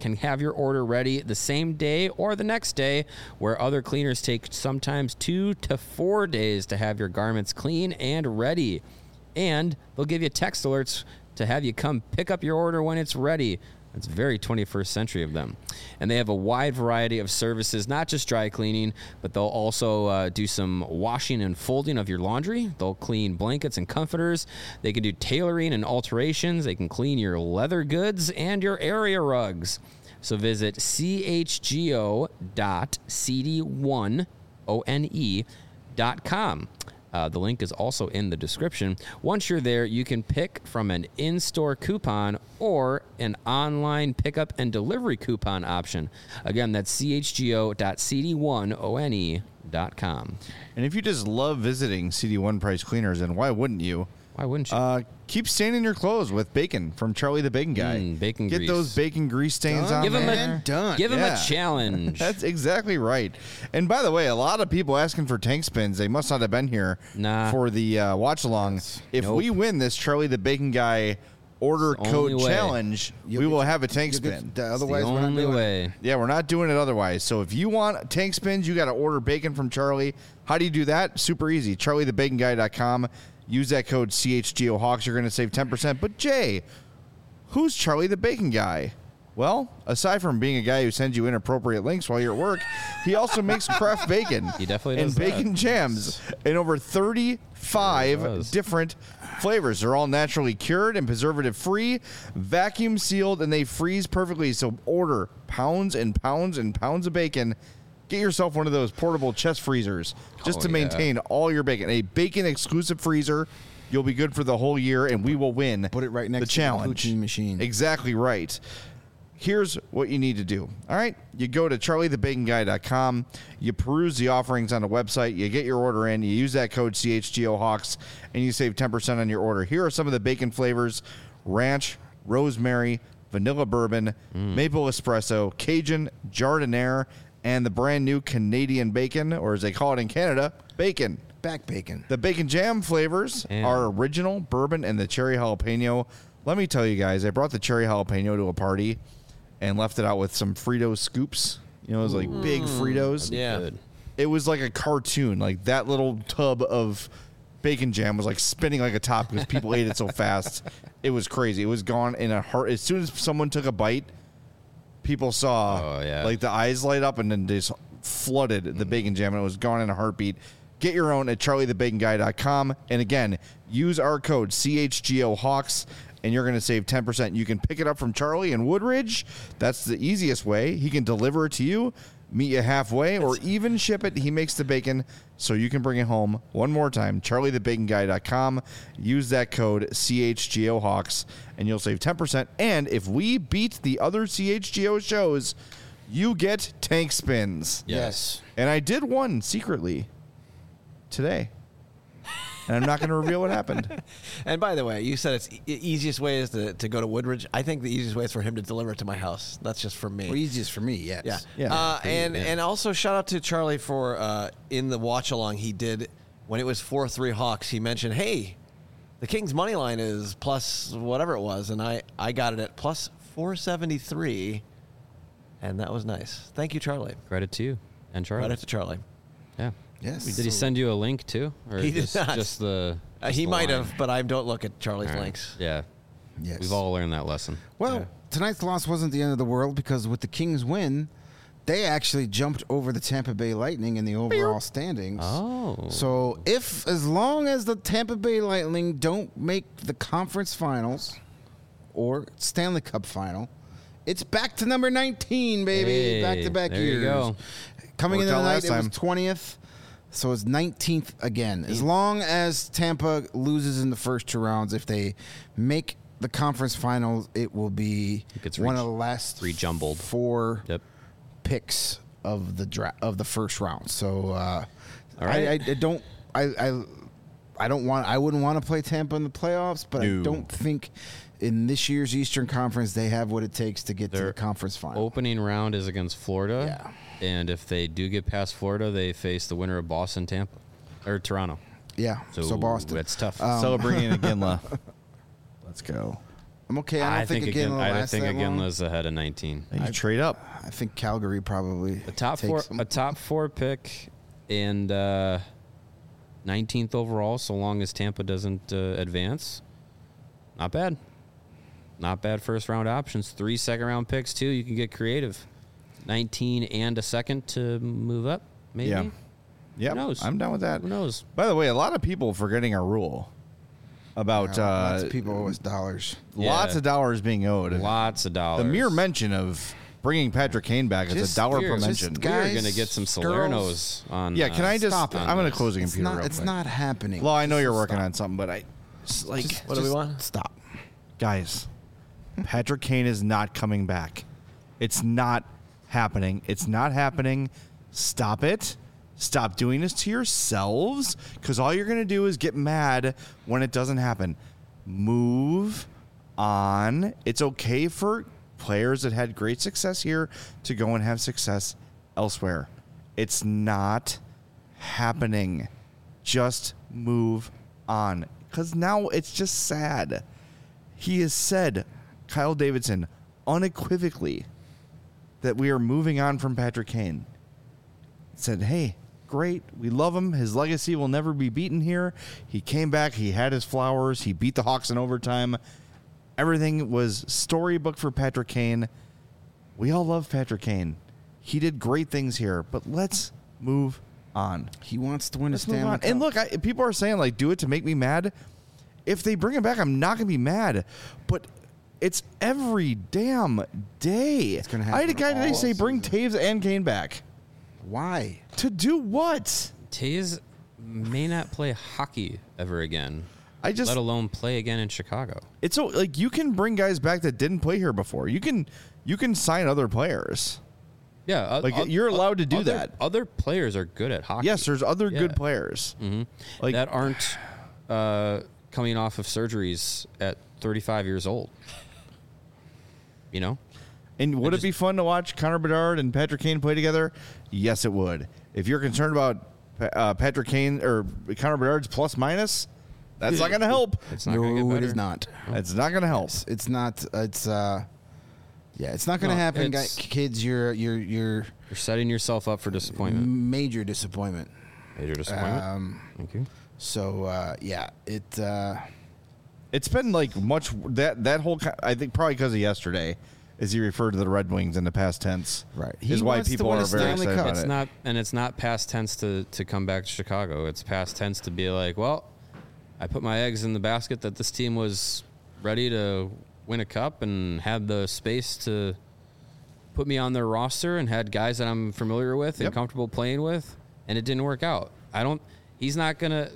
can have your order ready the same day or the next day, where other cleaners take sometimes 2 to 4 days to have your garments clean and ready. And they'll give you text alerts to have you come pick up your order when it's ready. It's very 21st century of them. And they have a wide variety of services, not just dry cleaning, but they'll also do some washing and folding of your laundry. They'll clean blankets and comforters. They can do tailoring and alterations. They can clean your leather goods and your area rugs. So visit chgo.cd1one.com. The link is also in the description. Once you're there, you can pick from an in-store coupon or an online pickup and delivery coupon option. Again, that's chgo.cd1one.com. And if you just love visiting CD1 Price Cleaners, and why wouldn't you? Why wouldn't you? Keep staining your clothes with bacon from Charlie the Bacon Guy. Bacon Get grease. those bacon grease stains on Give him there. Give him Yeah. a challenge. That's exactly right. And by the way, a lot of people asking for tank spins. They must not have been here for the watch along. If we win this Charlie the Bacon Guy order code challenge, we will have a tank spin. Otherwise, the we're not only doing it. way. Yeah, we're not doing it otherwise. So if you want tank spins, you got to order bacon from Charlie. How do you do that? Super easy. CharlieTheBaconGuy.com. Use that code CHGOHawks. You're going to save 10%. But Jay, who's Charlie the Bacon Guy? Well, aside from being a guy who sends you inappropriate links while you're at work, he also makes craft bacon. He definitely and does bacon jams in over 35 different flavors. They're all naturally cured and preservative free, vacuum sealed, and they freeze perfectly. So order pounds and pounds and pounds of bacon. Get yourself one of those portable chest freezers just to maintain all your bacon. A bacon exclusive freezer. You'll be good for the whole year, and we will win. Put it right next the challenge. to the poutine machine. Exactly right. Here's what you need to do. All right, you go to CharlieTheBaconGuy.com. You peruse the offerings on the website. You get your order in. You use that code CHGOHawks, and you save 10% on your order. Here are some of the bacon flavors: ranch, rosemary, vanilla bourbon, maple espresso, Cajun, jardiniere, and the brand new Canadian bacon, or as they call it in Canada, bacon. Back bacon. The bacon jam flavors are original, bourbon, and the cherry jalapeno. Let me tell you guys, I brought the cherry jalapeno to a party and left it out with some Frito scoops. You know, it was like big Fritos. Yeah. Good. It was like a cartoon. Like that little tub of bacon jam was like spinning like a top because people ate it so fast. It was crazy. It was gone in a heart. As soon as someone took a bite, people saw like the eyes light up and then just flooded the bacon jam, and it was gone in a heartbeat. Get your own at CharlieTheBaconGuy.com. And again, use our code CHGOHawks, and you're going to save 10%. You can pick it up from Charlie in Woodridge. That's the easiest way. He can deliver it to you, meet you halfway, or even ship it. He makes the bacon so you can bring it home. One more time, CharlieTheBaconGuy.com. Use that code CHGOHawks, and you'll save 10%. And if we beat the other CHGO shows, you get tank spins. Yes. And I did one secretly today. And I'm not going to reveal what happened. And by the way, you said it's easiest way is to go to Woodridge. I think the easiest way is for him to deliver it to my house. That's just for me. Well, easiest for me, yes. Yeah. And also shout out to Charlie for in the watch along he did when it was 4-3 Hawks. He mentioned, hey, the Kings money line is plus whatever it was, and I got it at plus 473, and that was nice. Thank you, Charlie. Credit to you and Charlie. Credit to Charlie. Yeah. Yes. Did he send you a link too, or He did not. just the? Just He the might line? have, but I don't look at Charlie's All right. links. Yeah. Yes. We've all learned that lesson. Well, tonight's loss wasn't the end of the world because with the Kings win, they actually jumped over the Tampa Bay Lightning in the overall standings. Oh. So as long as the Tampa Bay Lightning don't make the conference finals or Stanley Cup final, it's back to number 19, baby. Hey, Back-to-back there years. you go. Coming Worked into the out night, last it was time. 20th. So it's 19th again. As long as Tampa loses in the first two rounds, if they make the conference finals, it will be gets one of the last rejumbled. 4 Yep. picks of the first round. So All right. I wouldn't want to play Tampa in the playoffs, but No. I don't think in this year's Eastern Conference they have what it takes to get to Their the conference final. Opening round is against Florida. Yeah. And if they do get past Florida, they face the winner of Boston, Tampa, or Toronto. Yeah. So Boston. That's tough. Celebrating again, La. Let's go. I'm okay. I think Iginla's ahead of 19. You trade up. I think Calgary probably A top four pick and 19th overall, so long as Tampa doesn't advance. Not bad. Not bad first round options. 3 second round picks too. You can get creative. 19 and a second to move up. Maybe. Yeah. Yep. Who knows? I'm down with that. Who knows? By the way, a lot of people forgetting our rule about lots of people owe us dollars. Lots of dollars being owed. Lots of dollars. The mere mention of bringing Patrick Kane back is $1 per mention. We're going to get some Salernos on. Yeah, can I just? stop it. I'm going to close the computer. Real It's quick. not happening. Well, I know you're working on something, but What do we want? Stop. Guys, Patrick Kane is not coming back. It's not happening. It's not happening. Stop it. Stop doing this to yourselves, because all you're going to do is get mad when it doesn't happen. Move on. It's okay for players that had great success here to go and have success elsewhere. It's not happening. Just move on, because now it's just sad. He has said, Kyle Davidson, unequivocally, that we are moving on from Patrick Kane. Said, hey, great, we love him. His legacy will never be beaten here. He came back. He had his flowers. He beat the Hawks in overtime. Everything was storybook for Patrick Kane. We all love Patrick Kane. He did great things here, but let's move on. He wants to win a Let's move Stanley on. Cup. And look, people are saying, like, do it to make me mad. If they bring him back, I'm not going to be mad. But it's every damn day. It's gonna I had a happen guy today all say, bring Taves and Kane back. Why? To do what? Taves may not play hockey ever again. Let alone play again in Chicago. It's so, like, you can bring guys back that didn't play here before. You can sign other players. Yeah, You're allowed to do that. Other players are good at hockey. Yes, there's other good players. Mm-hmm. Like that aren't coming off of surgeries at 35 years old. You know? And would it be fun to watch Connor Bedard and Patrick Kane play together? Yes, it would. If you're concerned about Patrick Kane or Connor Bedard's plus minus, that's not going to help. It's not going to get better. It is not. It's not going to help. It's not. It's it's not going to happen, kids. You're setting yourself up for disappointment. Major disappointment. Major disappointment. Thank you. So it's been like much that whole. I think probably because of yesterday, as he referred to the Red Wings in the past tense, right? Is why people are very excited about it. It's not past tense to come back to Chicago. It's past tense to be like, well, I put my eggs in the basket that this team was ready to win a cup and had the space to put me on their roster and had guys that I'm familiar with and comfortable playing with, and it didn't work out. He's not gonna.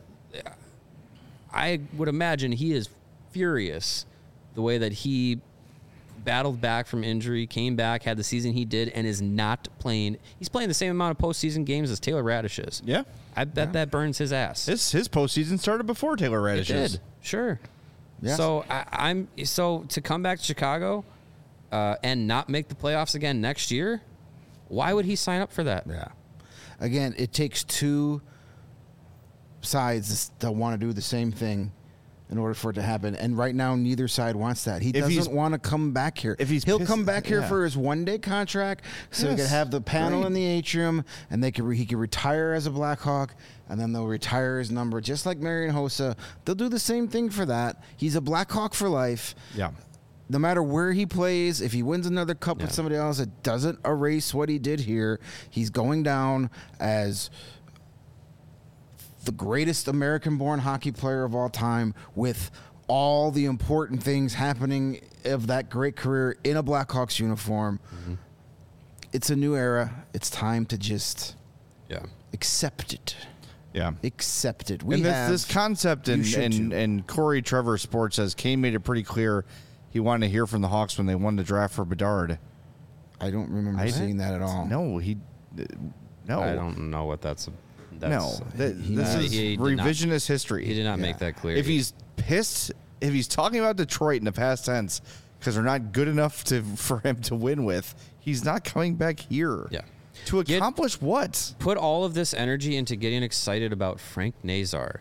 I would imagine he is furious the way that he battled back from injury, came back, had the season he did, and is not playing. He's playing the same amount of postseason games as Taylor Radish is. Yeah. I bet that burns his ass. His postseason started before Taylor Radish did. Sure. Yes. So to come back to Chicago and not make the playoffs again next year, why would he sign up for that? Yeah. Again, it takes two sides to want to do the same thing in order for it to happen. And right now, neither side wants that. He doesn't want to come back here. He'll come back here for his one-day contract, so he could have the panel in the atrium, and he could retire as a Blackhawk, and then they'll retire his number, just like Marian Hossa. They'll do the same thing for that. He's a Blackhawk for life. Yeah. No matter where he plays, if he wins another cup with somebody else, it doesn't erase what he did here. He's going down as the greatest American-born hockey player of all time, with all the important things happening of that great career in a Blackhawks uniform. Mm-hmm. It's a new era. It's time to just accept it. Yeah. Accept it. And this concept, and Corey Trevor Sports says, Kane made it pretty clear he wanted to hear from the Hawks when they won the draft for Bedard. I don't remember seeing that at all. No, no. I don't know what that's this is revisionist history. He did not make that clear. If he's pissed, if he's talking about Detroit in the past tense because they're not good enough for him to win with, he's not coming back here. Yeah. To accomplish what? Put all of this energy into getting excited about Frank Nazar.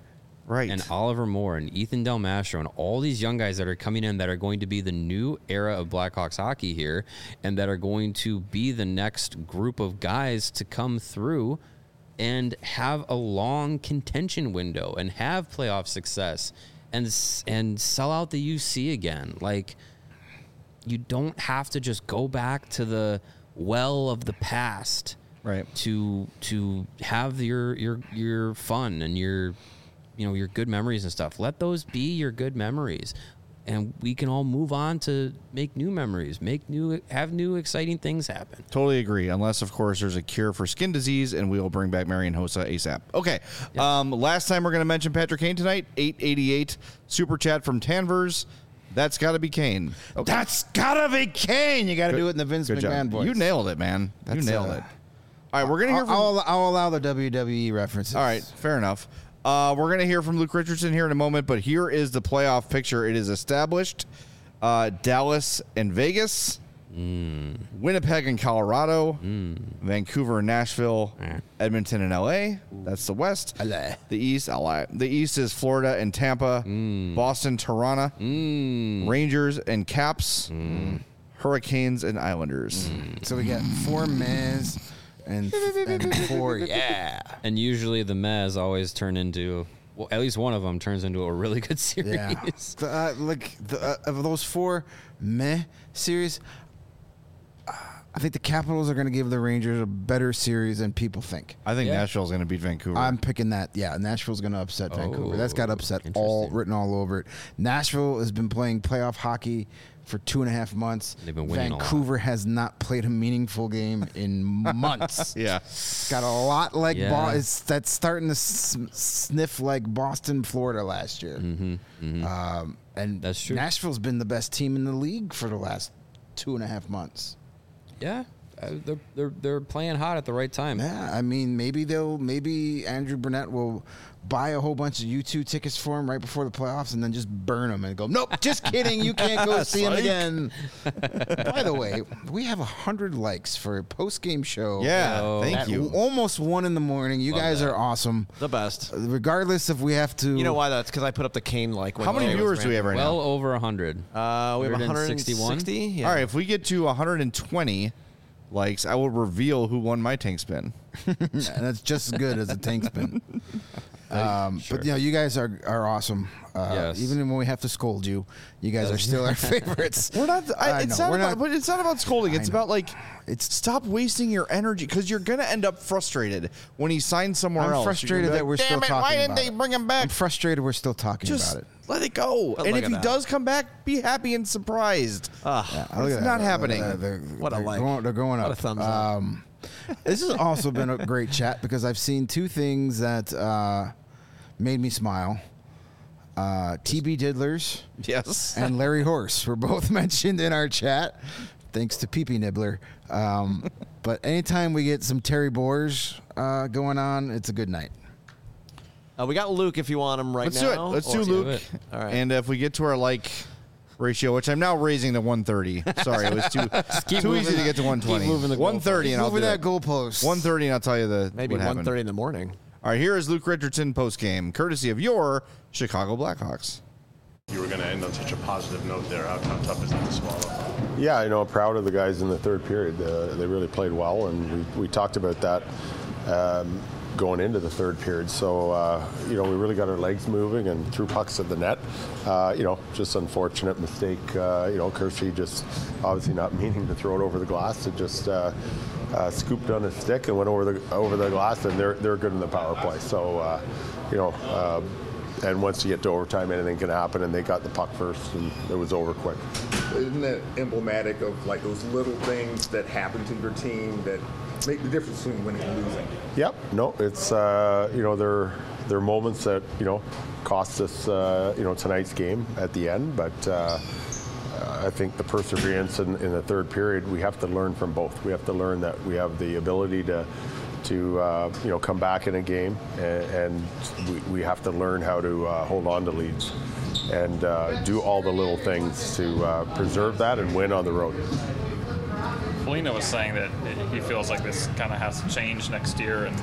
Right. And Oliver Moore and Ethan Del Mastro and all these young guys that are coming in that are going to be the new era of Blackhawks hockey here and that are going to be the next group of guys to come through and have a long contention window and have playoff success and sell out the UC again. Like, you don't have to just go back to the well of the past, right, to have your fun and your good memories and stuff. Let those be your good memories, and we can all move on to make new memories, have new exciting things happen. Totally agree. Unless, of course, there's a cure for skin disease, and we'll bring back Marian Hossa ASAP. Okay. Yes. Last time we're going to mention Patrick Kane tonight. 888 super chat from Tanvers. That's got to be Kane. Okay. That's got to be Kane. You got to do it in the Vince McMahon voice. You nailed it, man. You nailed it. All right, we're going to hear from... I'll allow the WWE references. All right, fair enough. We're going to hear from Luke Richardson here in a moment, but here is the playoff picture. It is established. Dallas and Vegas. Winnipeg and Colorado. Vancouver and Nashville. Edmonton and LA. That's the West. LA. The East, LA. The East is Florida and Tampa. Boston, Toronto. Rangers and Caps. Hurricanes and Islanders. So we got 4 Mez and 4, yeah. And usually the Mez always turn into, well, at least one of them turns into a really good series. Yeah. Of those 4 meh series, I think the Capitals are going to give the Rangers a better series than people think. I think Nashville's going to beat Vancouver. I'm picking that. Yeah, Nashville's going to upset Vancouver. That's got upset written all over it. Nashville has been playing playoff hockey for 2.5 months. They've been winning Vancouver has not played a meaningful game in months. Yeah. It's got a lot like that's starting to sniff like Boston, Florida last year. And that's true. Nashville's been the best team in the league for the last 2.5 months. Yeah, they're playing hot at the right time. Yeah, I mean, maybe Andrew Burnett will buy a whole bunch of U2 tickets for him right before the playoffs and then just burn them and go, nope, just kidding, you can't go see him again. By the way, we have 100 likes for a post-game show. Yeah, thank you. Almost 1 in the morning. You guys are awesome. The best. Regardless if we have to. You know why? That's because I put up the Kane like. How many viewers do we have right now? Well over 100. We have 160. Yeah. All right, if we get to 120 likes, I will reveal who won my tank spin. And that's just as good as a tank spin. But you guys are awesome. Yes. Even when we have to scold you, you guys are still our favorites. We're not. It's not about scolding. It's about stop wasting your energy because you're gonna end up frustrated when he signs somewhere else. I'm frustrated that we're still talking about it. Why didn't they bring him back? I'm frustrated we're still talking about it. Let it go. And if he does come back, be happy and surprised. It's not happening. They're going up. What a thumbs up. This has also been a great chat because I've seen 2 things that made me smile. TB Diddlers, yes, and Larry Horse were both mentioned in our chat, thanks to Pee-Pee Nibbler. But anytime we get some Terry Boers going on, it's a good night. We got Luke if you want him Let's now. Let's do Luke. Do it. All right. And if we get to our like ratio, which I'm now raising to 130. Sorry, it was too easy to get to 120. Keep moving the 130 and I'll do that it. goalpost. 130 and I'll tell you maybe 1:30 in the morning. All right, here is Luke Richardson post-game, courtesy of your Chicago Blackhawks. You were going to end on such a positive note there. How tough is that to swallow? Yeah, I'm proud of the guys in the third period. They really played well, and we talked about that going into the third period. So, we really got our legs moving and threw pucks at the net. Just unfortunate mistake. Kershey just obviously not meaning to throw it over the glass. It just scooped on his stick and went over the glass, and they're good in the power play. So, and once you get to overtime, anything can happen, and they got the puck first, and it was over quick. Isn't that emblematic of like those little things that happen to your team that make the difference between winning and losing? Yep. No, it's they're moments that cost us tonight's game at the end, but I think the perseverance in the third period, we have to learn from both. We have to learn that we have the ability to come back in a game, and we have to learn how to hold on to leads and do all the little things to preserve that and win on the road. Foligno was saying that he feels like this kind of has to change next year, and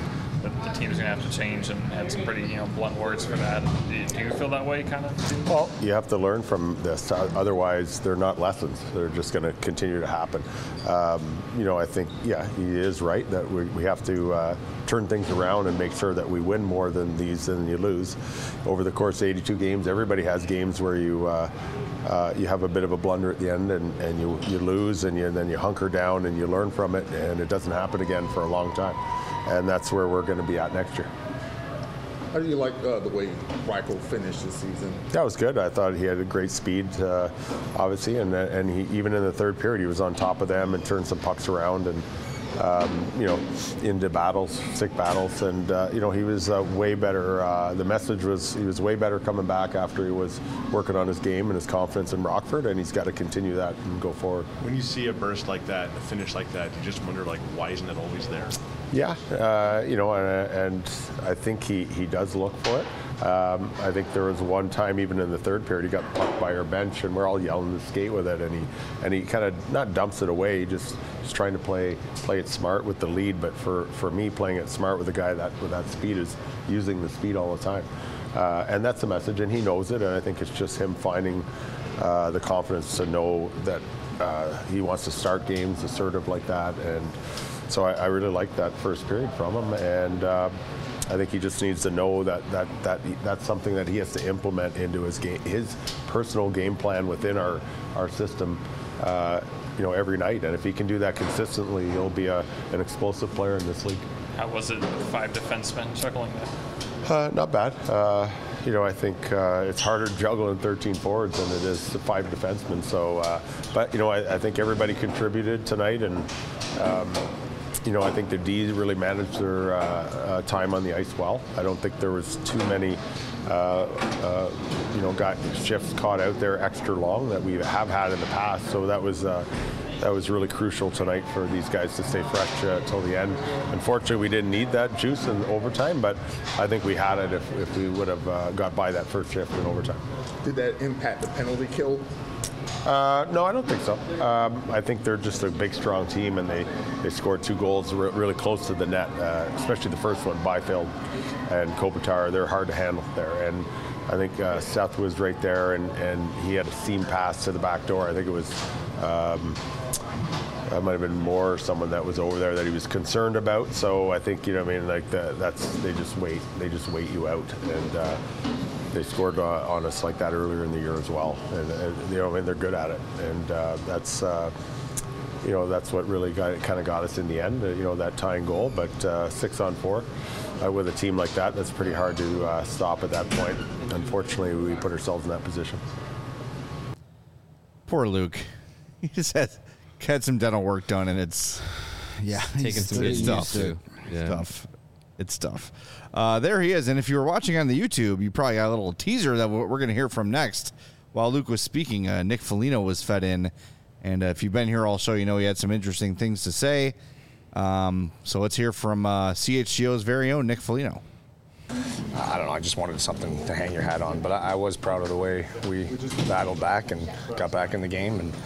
the team's going to have to change, and had some pretty blunt words for that. Do you feel that way, kind of? Well, you have to learn from this. Otherwise, they're not lessons. They're just going to continue to happen. I think, yeah, he is right that we have to turn things around and make sure that we win more than you lose. Over the course of 82 games, everybody has games where you have a bit of a blunder at the end and you lose, and then you hunker down and you learn from it, and it doesn't happen again for a long time. And that's where we're going to be at next year. How do you like the way Reichel finished the season? That was good. I thought he had a great speed, obviously, and he, even in the third period, he was on top of them and turned some pucks around and into battles, sick battles, and he was way better. The message was he was way better coming back after he was working on his game and his confidence in Rockford, and he's got to continue that and go forward. When you see a burst like that, a finish like that, you just wonder why isn't it always there? Yeah, and I think he does look for it. I think there was one time, even in the third period, he got pucked by our bench, and we're all yelling to skate with it, and he kind of not dumps it away, just trying to play it smart with the lead. But for me, playing it smart with a guy with that speed is using the speed all the time, and that's the message, and he knows it. And I think it's just him finding the confidence to know that he wants to start games assertive like that, and so I really like that first period from him, and I think he just needs to know that's something that he has to implement into his personal game plan within our system, every night. And if he can do that consistently, he'll be an explosive player in this league. How was it, 5 defensemen juggling that? Not bad. I think it's harder juggling 13 forwards than it is 5 defensemen. So, but I think everybody contributed tonight, and I think the D's really managed their time on the ice well. I don't think there was too many got shifts caught out there extra long that we have had in the past. So that was really crucial tonight for these guys to stay fresh till the end. Unfortunately, we didn't need that juice in overtime, but I think we had it if we would have got by that first shift in overtime. Did that impact the penalty kill? No, I don't think so. I think they're just a big, strong team, and they scored 2 goals really close to the net, especially the first one, Byfield and Kopitar. They're hard to handle there. And I think Seth was right there, and he had a seam pass to the back door. I think it was that might have been Moore or someone that was over there that he was concerned about. So I think they just wait you out, and they scored on us like that earlier in the year as well, and they're good at it, and that's what really kind of got us in the end, that tying goal. But 6-on-4 with a team like that's pretty hard to stop at that point. Unfortunately, we put ourselves in that position. Poor Luke. He just had some dental work done, and it's taking some good stuff. Yeah. It's tough. There he is. And if you were watching on the YouTube, you probably got a little teaser that we're going to hear from next. While Luke was speaking, Nick Foligno was fed in. And if you've been here all show, he had some interesting things to say. So let's hear from CHGO's very own Nick Foligno. I don't know. I just wanted something to hang your hat on. But I was proud of the way we battled back and got back in the game. And,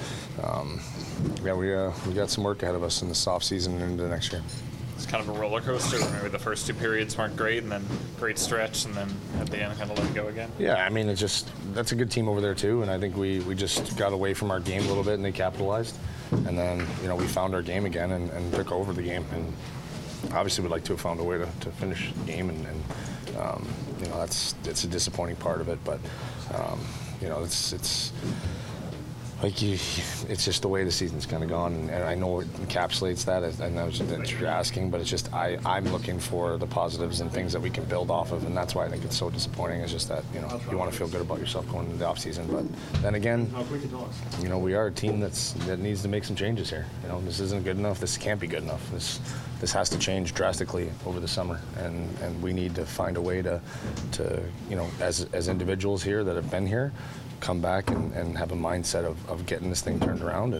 we got some work ahead of us in this off season and into next year. It's kind of a roller coaster. Maybe the first 2 periods weren't great, and then great stretch, and then at the end kind of let it go again. Yeah, I mean, that's a good team over there too, and I think we just got away from our game a little bit, and they capitalized, and then we found our game again and took over the game, and obviously we'd like to have found a way to finish the game, and it's a disappointing part of it, but it's. It's just the way the season's kind of gone, and I know it encapsulates that. I know that you're asking, but it's just I'm looking for the positives and things that we can build off of, and that's why I think it's so disappointing. It's just that you want to feel good about yourself going into the off season, but then again, we are a team that needs to make some changes here. This isn't good enough. This can't be good enough. This has to change drastically over the summer, and we need to find a way to as individuals here that have been here, come back and have a mindset of getting this thing turned around. And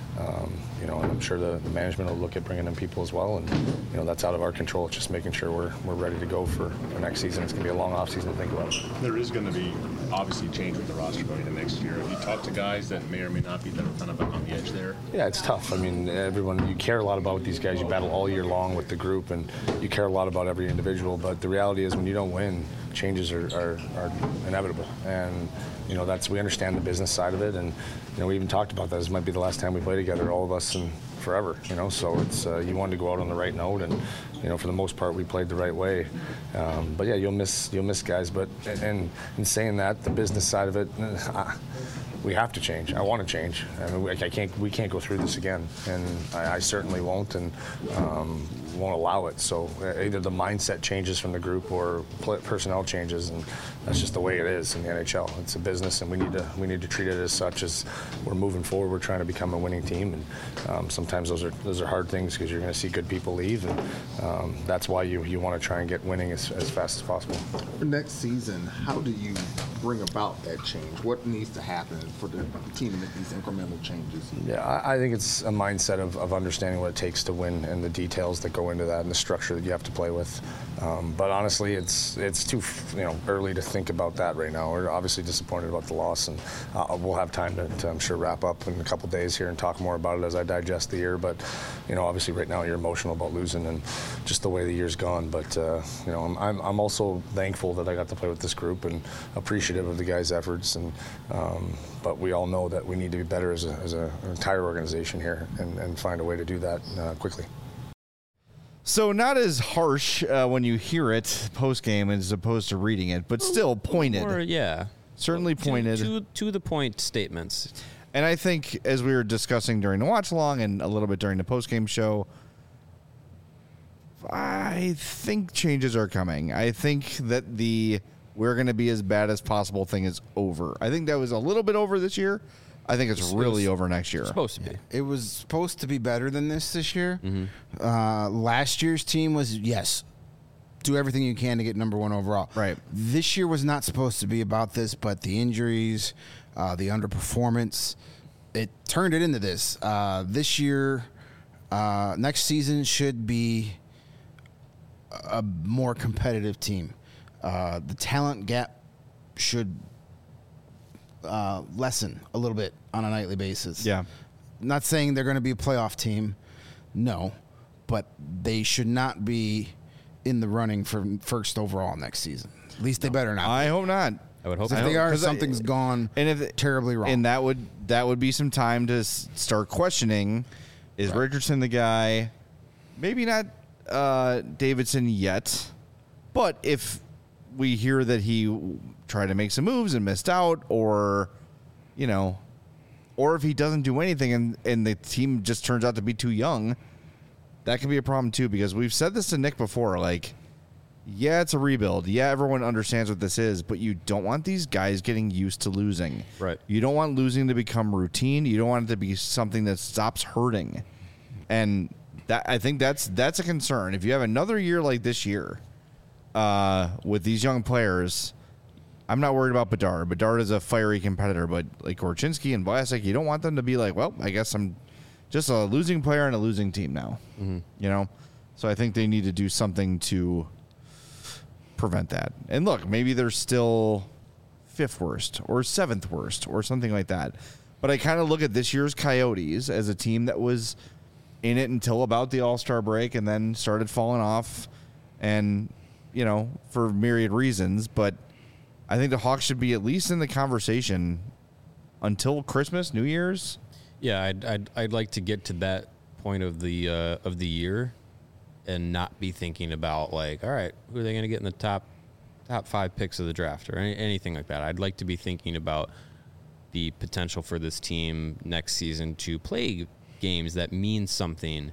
And I'm sure the management will look at bringing in people as well, and that's out of our control. It's just making sure we're ready to go for next season. It's going to be a long off season to think about. There is going to be obviously change with the roster going into next year. Have you talked to guys that may or may not be that are kind of on the edge there? Yeah, it's tough. I mean, you care a lot about these guys. You battle all year long with the group, and you care a lot about every individual. But the reality is, when you don't win, changes are inevitable. And we understand the business side of it, and we even talked about that. This might be the last time we play together, all of us, and forever. So it's you wanted to go out on the right note, and for the most part we played the right way. But yeah, you'll miss guys. But and in saying that, the business side of it, we have to change. I want to change. I mean, we can't go through this again, and I certainly won't, and won't allow it. So either the mindset changes from the group or personnel changes, and that's just the way it is in the NHL. It's a business, and we need to treat it as such. As we're moving forward, we're trying to become a winning team, and sometimes those are hard things because you're going to see good people leave, and that's why you want to try and get winning as fast as possible. For next season, how do you bring about that change? What needs to happen for the team to make these incremental changes? Yeah, I think it's a mindset of understanding what it takes to win and the details that go into that and the structure that you have to play with. But honestly, it's too early to think about that right now. We're obviously disappointed about the loss, and we'll have time to I'm sure wrap up in a couple days here and talk more about it as I digest the year. But obviously right now you're emotional about losing and just the way the year's gone. But I'm also thankful that I got to play with this group and appreciative of the guys' efforts. And but we all know that we need to be better as an entire organization here and find a way to do that quickly. So not as harsh when you hear it post-game as opposed to reading it, but still pointed. Or, yeah. Certainly pointed. To the point statements. And I think, as we were discussing during the watch-along and a little bit during the post-game show, I think changes are coming. I think that we're going to be as bad as possible thing is over. I think that was a little bit over this year. I think it's really over next year. It's supposed to be. It was supposed to be better than this year. Mm-hmm. Last year's team was, yes, do everything you can to get number one overall. Right. This year was not supposed to be about this, but the injuries, the underperformance, it turned it into this. This year, next season should be a more competitive team. The talent gap should lessen a little bit on a nightly basis. Yeah. Not saying they're going to be a playoff team, no, but they should not be in the running for first overall next season. At least they better not. I hope not. I would hope if they are, something's gone terribly wrong. And that would be some time to start questioning, is Richardson the guy? Maybe not Davidson yet, but if we hear that he tried to make some moves and missed out, or if he doesn't do anything and the team just turns out to be too young, that can be a problem too, because we've said this to Nick before, like, yeah, it's a rebuild. Yeah, everyone understands what this is, but you don't want these guys getting used to losing. Right. You don't want losing to become routine. You don't want it to be something that stops hurting. And I think that's a concern. If you have another year like this year, with these young players, I'm not worried about Bedard. Bedard is a fiery competitor, but like Korchinski and Vlasic, you don't want them to be like, well, I guess I'm just a losing player on a losing team now. Mm-hmm. So I think they need to do something to prevent that. And look, maybe they're still 5th worst or 7th worst or something like that. But I kind of look at this year's Coyotes as a team that was in it until about the All-Star break and then started falling off, and for myriad reasons, but I think the Hawks should be at least in the conversation until Christmas, New Year's. Yeah, I'd like to get to that point of the year and not be thinking about, like, all right, who are they going to get in the top 5 picks of the draft or anything like that. I'd like to be thinking about the potential for this team next season to play games that mean something,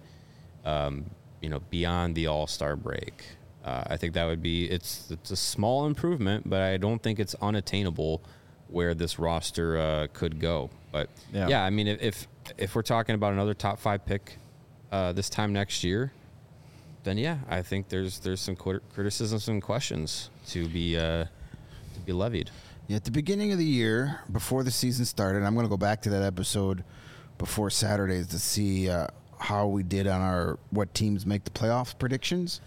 beyond the All-Star break. I think that would be it's a small improvement, but I don't think it's unattainable where this roster could go. But yeah, I mean, if we're talking about another top 5 pick this time next year, then yeah, I think there's some criticisms and questions to be levied. Yeah, at the beginning of the year, before the season started, I'm going to go back to that episode before Saturdays to see how we did on what teams make the playoff predictions.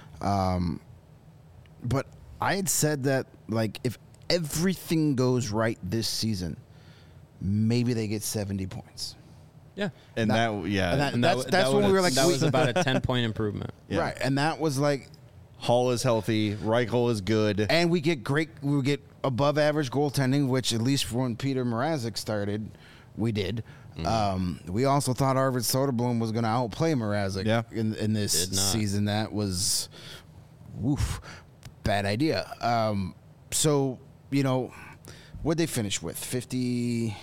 But I had said that, like, if everything goes right this season, maybe they get 70 points. Yeah. And that's when we were like, that was about a 10-point improvement. Yeah. Right. And that was like, Hall is healthy, Reichel is good. and we get above average goaltending, which at least when Peter Mrazek started, we did. We also thought Arvid Soderblom was going to outplay Mrazek in this season. That was, bad idea. So, what'd they finish with? 50...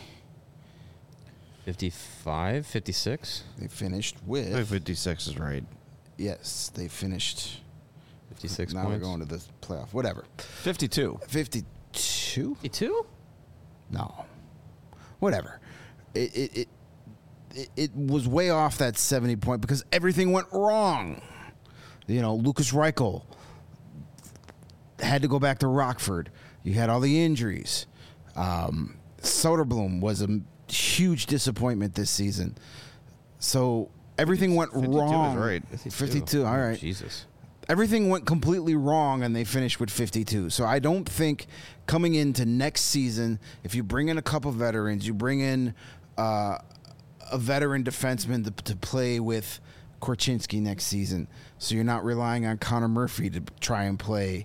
55, 56? They finished with... 56 is right. Yes, they finished... 56 now points. we're going to the playoff. Whatever. 52. 52? 52? No. Whatever. It was way off that 70 point because everything went wrong. Lucas Reichel had to go back to Rockford. You had all the injuries. Soderblom was a huge disappointment this season. So everything went 52 wrong. Is right. 52, all right. Jesus. Everything went completely wrong, and they finished with 52. So I don't think coming into next season, if you bring in a couple veterans, you bring in a veteran defenseman to play with Korchinski next season, so you're not relying on Connor Murphy to try and play,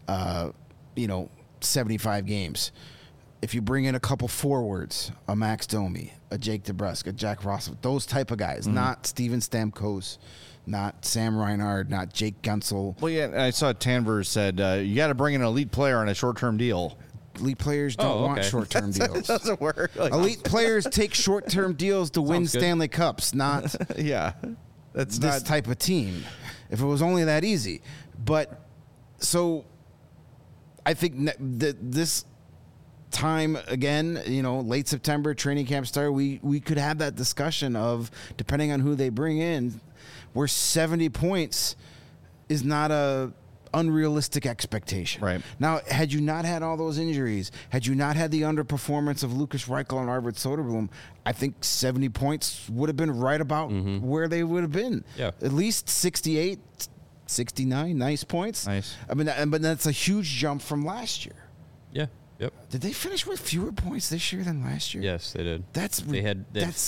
75 games. If you bring in a couple forwards, a Max Domi, a Jake DeBrusk, a Jack Ross, those type of guys, not Steven Stamkos, not Sam Reinhard, not Jake Gunsel. Well, yeah, I saw Tanver said you got to bring an elite player on a short-term deal. Elite players don't want short-term deals. It doesn't work. Elite players take short-term deals to win Stanley Cups, not that's this type of team. If it was only that easy. But so I think this time again, late September, training camp start, we could have that discussion of, depending on who they bring in, where 70 points is not a unrealistic expectation. Right. Now, had you not had all those injuries, had you not had the underperformance of Lucas Reichel and Arvid Soderblom, I think 70 points would have been right about where they would have been. Yeah. At least 68, 69, nice points. Nice. I mean, but that's a huge jump from last year. Yeah. Yep. Did they finish with fewer points this year than last year? Yes, they did. They had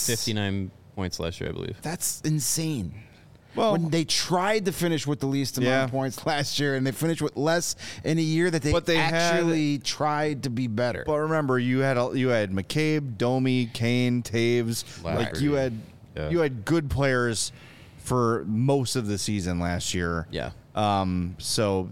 59 points last year, I believe. That's insane. Well, when they tried to finish with the least amount of points last year, and they finished with less in a year that they actually tried to be better. But remember, you had McCabe, Domi, Kane, Taves. Like you had good players for most of the season last year. Yeah. So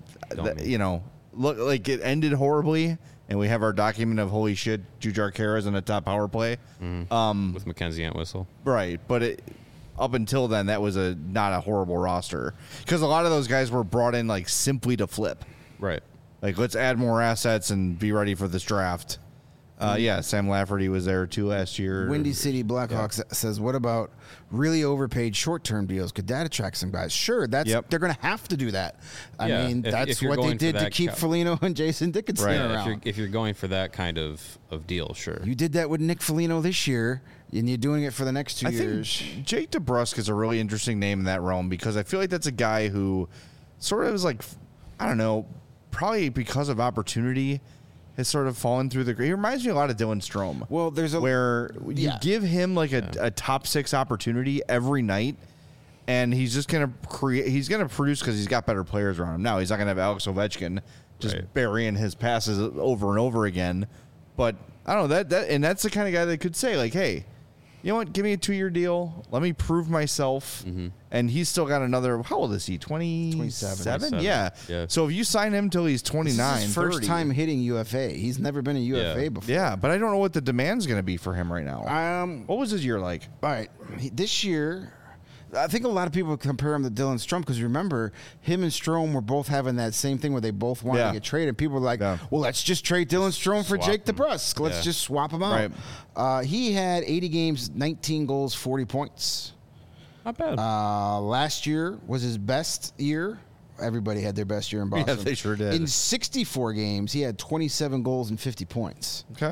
look, like, it ended horribly, and we have our document of holy shit, Jujhar Khaira's on the top power play. With Mackenzie Entwistle. Right, but up until then, that was not a horrible roster, because a lot of those guys were brought in like simply to flip. Right. Like, let's add more assets and be ready for this draft. Sam Lafferty was there too last year. Windy City Blackhawks says, what about really overpaid short-term deals? Could that attract some guys? Sure, they're going to have to do that. I mean, that's what they did to keep Foligno and Jason Dickinson around. If you're going for that kind of deal, sure. You did that with Nick Foligno this year, and you're doing it for the next 2 years. Think Jake DeBrusk is a really interesting name in that realm, because I feel like that's a guy who sort of is like, I don't know, probably because of opportunity, has sort of fallen through the. He reminds me a lot of Dylan Strome. Well, where you give him like a top 6 opportunity every night, and he's just gonna create. He's gonna produce because he's got better players around him. Now he's not gonna have Alex Ovechkin just burying his passes over and over again. But I don't know that and that's the kind of guy that could say like, hey, you know what? Give me a 2-year deal. Let me prove myself. And he's still got another. How old is he? 27? Yeah. So if you sign him till he's 29, this is his first 30, time hitting UFA. He's never been a UFA before. Yeah, but I don't know what the demand's going to be for him right now. What was his year like? All right, this year, I think a lot of people compare him to Dylan Strome, because remember, him and Strome were both having that same thing where they both wanted to get traded. People were like, well, let's just trade Dylan Strome for Jake DeBrusk. Let's just swap him out. Right. He had 80 games, 19 goals, 40 points. Not bad. Last year was his best year. Everybody had their best year in Boston. Yeah, they sure did. In 64 games, he had 27 goals and 50 points. Okay.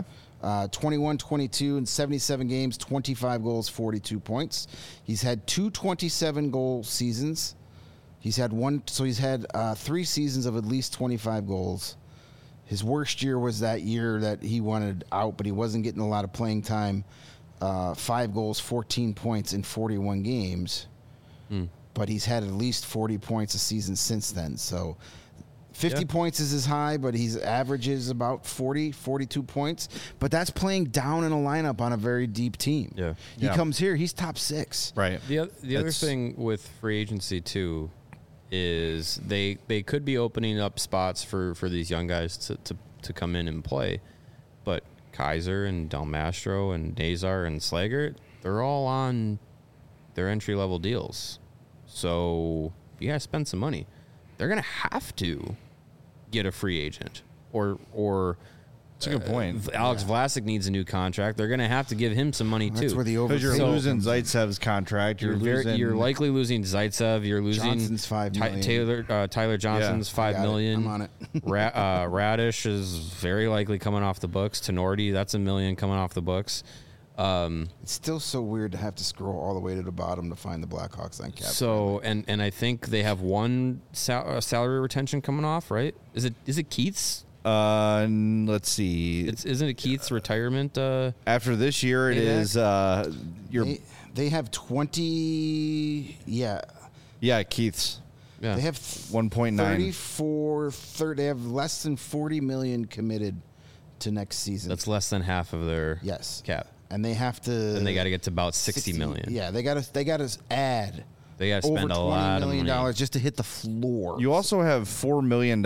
21-22 in 77 games, 25 goals, 42 points. He's had 2 27-goal seasons. He's had 3 seasons of at least 25 goals. His worst year was that year that he wanted out, but he wasn't getting a lot of playing time. 5 goals, 14 points in 41 games. But he's had at least 40 points a season since then. So 50 points is his high, but he's averages about 40, 42 points. But that's playing down in a lineup on a very deep team. Yeah. He comes here, he's top 6. Right. The other thing with free agency too is they could be opening up spots for these young guys to come in and play. But Kaiser and Del Mastro and Nazar and Slager, they're all on their entry-level deals. So you got to spend some money. They're going to have to get a free agent. Or that's a good point. Alex Vlasic needs a new contract. They're going to have to give him some money, That's too. where the Because you're overpay losing Zaitsev's contract. You're likely losing Zaitsev. You're losing Johnson's $5 million. Tyler Johnson's $5 million. I'm on it. Radish is very likely coming off the books. Tenorti, that's $1 million coming off the books. It's still so weird to have to scroll all the way to the bottom to find the Blackhawks on cap. So and I think they have one salary retention coming off, right? Is it Keith's? Let's see. Isn't it Keith's retirement? After this year, it is. They have 20. Yeah, Keith's. Yeah. They have 1.9. They have less than $40 million committed to next season. That's less than half of their cap. And they have to. And they got to get to about 60 million. Yeah, they got to add. They got to spend a lot of money. $20 million just to hit the floor. You also have $4 million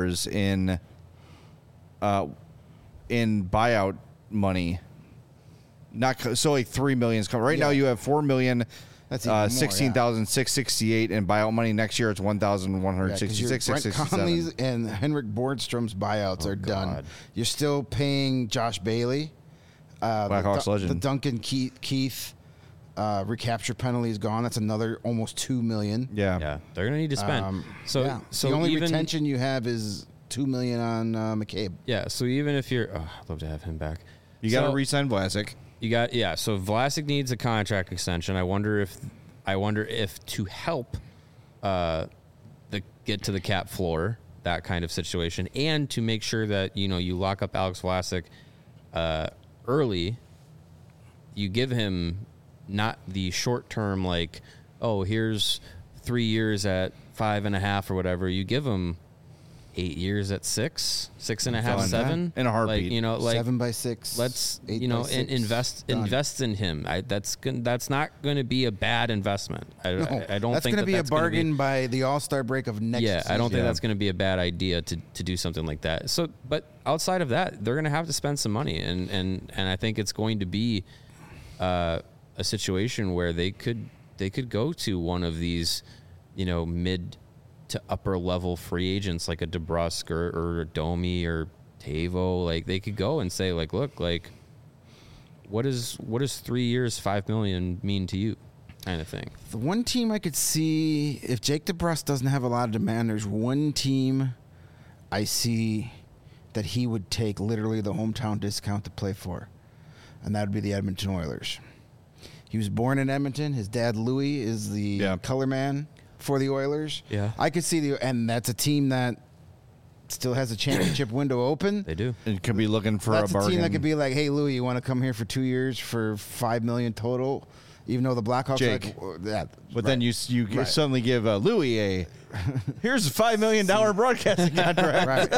in buyout money. So like $3 million is coming. Right now you have $4 million. That's even more, 16,668 in buyout money. Next year it's 1,166. Brent Conley's and Henrik Borgstrom's buyouts are done. You're still paying Josh Bailey, Blackhawks legend. The Duncan Keith recapture penalty is gone. That's another almost $2 million. Yeah, they're gonna need to spend. So the only retention you have is $2 million on McCabe. Yeah, so even if you're, I'd love to have him back. You got to re-sign Vlasic. So Vlasic needs a contract extension. I wonder if to help get to the cap floor, that kind of situation, and to make sure that you lock up Alex Vlasic early, you give him not the short term here's 3 years at 5.5 or whatever. You give him 8 years at 6.5, 7 in a heartbeat. 7 by 6. Let's and invest in him. That's not going to be a bad investment. I don't that's think going to be a bargain by the All-Star break of next season. I don't think that's going to be a bad idea to do something like that. So, but outside of that, they're going to have to spend some money, and I think it's going to be a situation where they could go to one of these mid to upper level free agents like a DeBrusk or a Domi or Tavo. They could go and say look, what does 3 years, $5 million mean to you, kind of thing. The one team I could see, if Jake DeBrusk doesn't have a lot of demand, there's one team I see that he would take literally the hometown discount to play for, and that would be the Edmonton Oilers. He was born in Edmonton. His dad Louis is the color man for the Oilers. Yeah. I could see and that's a team that still has a championship window open. They do. It could be looking for That's a bargain. a team that could be like, hey, Louis, you want to come here for 2 years for $5 million total? Even though the Blackhawks Jake. But then you suddenly give Louis here's a $5 million broadcasting contract.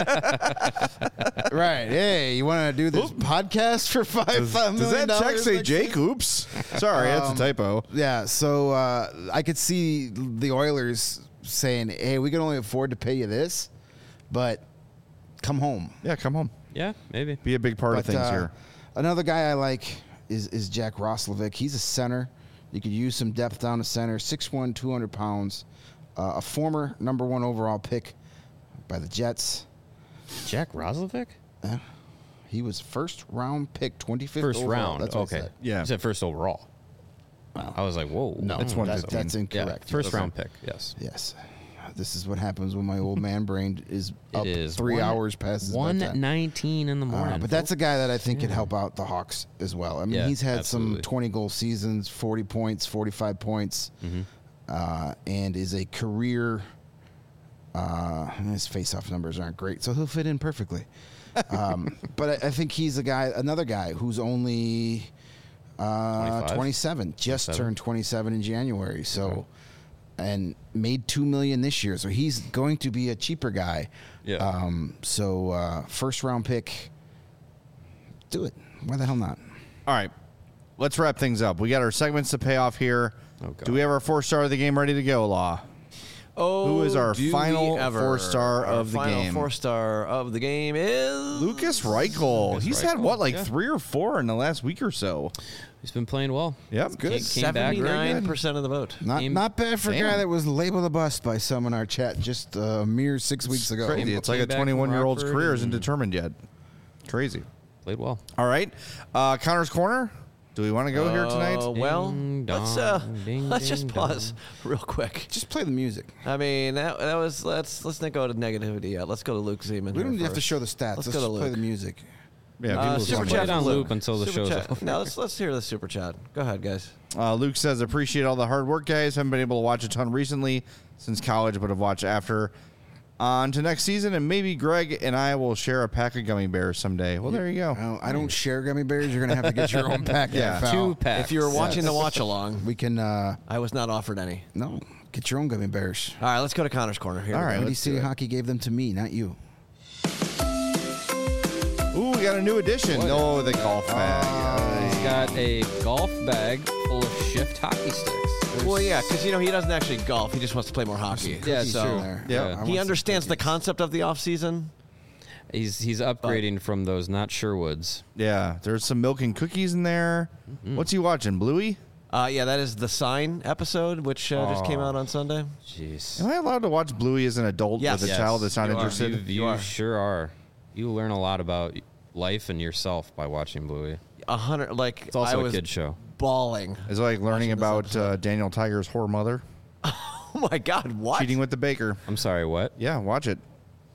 Right. Hey, you want to do this podcast for $5 million? Does that check say Jake? Oops. Sorry, that's a typo. Yeah, so I could see the Oilers saying, hey, we can only afford to pay you this, but come home. Yeah, come home. Yeah, maybe. Be a big part of things here. Another guy I like is Jack Roslovic. He's a center. You could use some depth down the center. 6'1", 200 pounds. A former number 1 overall pick by the Jets. Jack Roslovic? He was first round pick, 25th First overall. round. That's what Okay. I said. You said first overall. Wow. I was like, whoa. No, that's incorrect. First round pick. Yes. Yes. This is what happens when my old man brain is up 3 hours past 1:19 in the morning. But that's a guy that I think could help out the Hawks as well. I mean, he's had some 20-goal seasons, 40 points, 45 points, and is a career. His face-off numbers aren't great, so he'll fit in perfectly. But I think he's another guy who's only 27, just turned 27 in January. So. And made $2 million this year, so he's going to be a cheaper guy. Yeah. First round pick. Do it. Why the hell not? All right, let's wrap things up. We got our segments to pay off here. Do we have our 4-star of the game ready to go, Law? Oh, who is our final 4-star of the game? Final 4-star of the game is Lucas Reichel. He's had 3 or 4 in the last week or so. He's been playing well. Yep, good. 79% of the vote. Not bad for a guy that was labeled a bust by some in our chat just a mere 6 weeks ago. Crazy. It's like a 21-year-old's career isn't determined yet. Crazy. Played well. All right, Connor's Corner. Do we want to go here tonight? Well, let's just pause real quick. Just play the music. I mean, that was let's not go to negativity yet. Let's go to Luke Zeman. We don't have to show the stats. Let's just play the music. Yeah, super chat on loop until the show's over. Now let's hear the super chat. Go ahead, guys. Luke says, appreciate all the hard work, guys. Haven't been able to watch a ton recently since college, but have watched after. On to next season, and maybe Greg and I will share a pack of gummy bears someday. Well, there you go. I don't share gummy bears. You're going to have to get your own pack. Yeah, 2 packs. If you were watching the watch along, we can. I was not offered any. No, get your own gummy bears. All right, let's go to Connor's Corner here. All right, Windy City Hockey gave them to me, not you. Ooh, we got a new addition. Oh, the golf bag. He's got a golf bag full of Shift hockey sticks. Well, yeah, because he doesn't actually golf. He just wants to play more hockey. Yeah, so yeah. He understands the concept of the off season. He's upgrading from those not Sherwoods. Yeah, there's some milk and cookies in there. What's he watching, Bluey? Yeah, that is the Sign episode, which just came out on Sunday. Jeez. Am I allowed to watch Bluey as an adult with a child that's not interested? You sure are. You learn a lot about life and yourself by watching Bluey. 100, like it's also I was a kid show. Bawling. It's like learning about Daniel Tiger's whore mother. Oh my God! What? Cheating with the baker. I'm sorry. What? Yeah, watch it.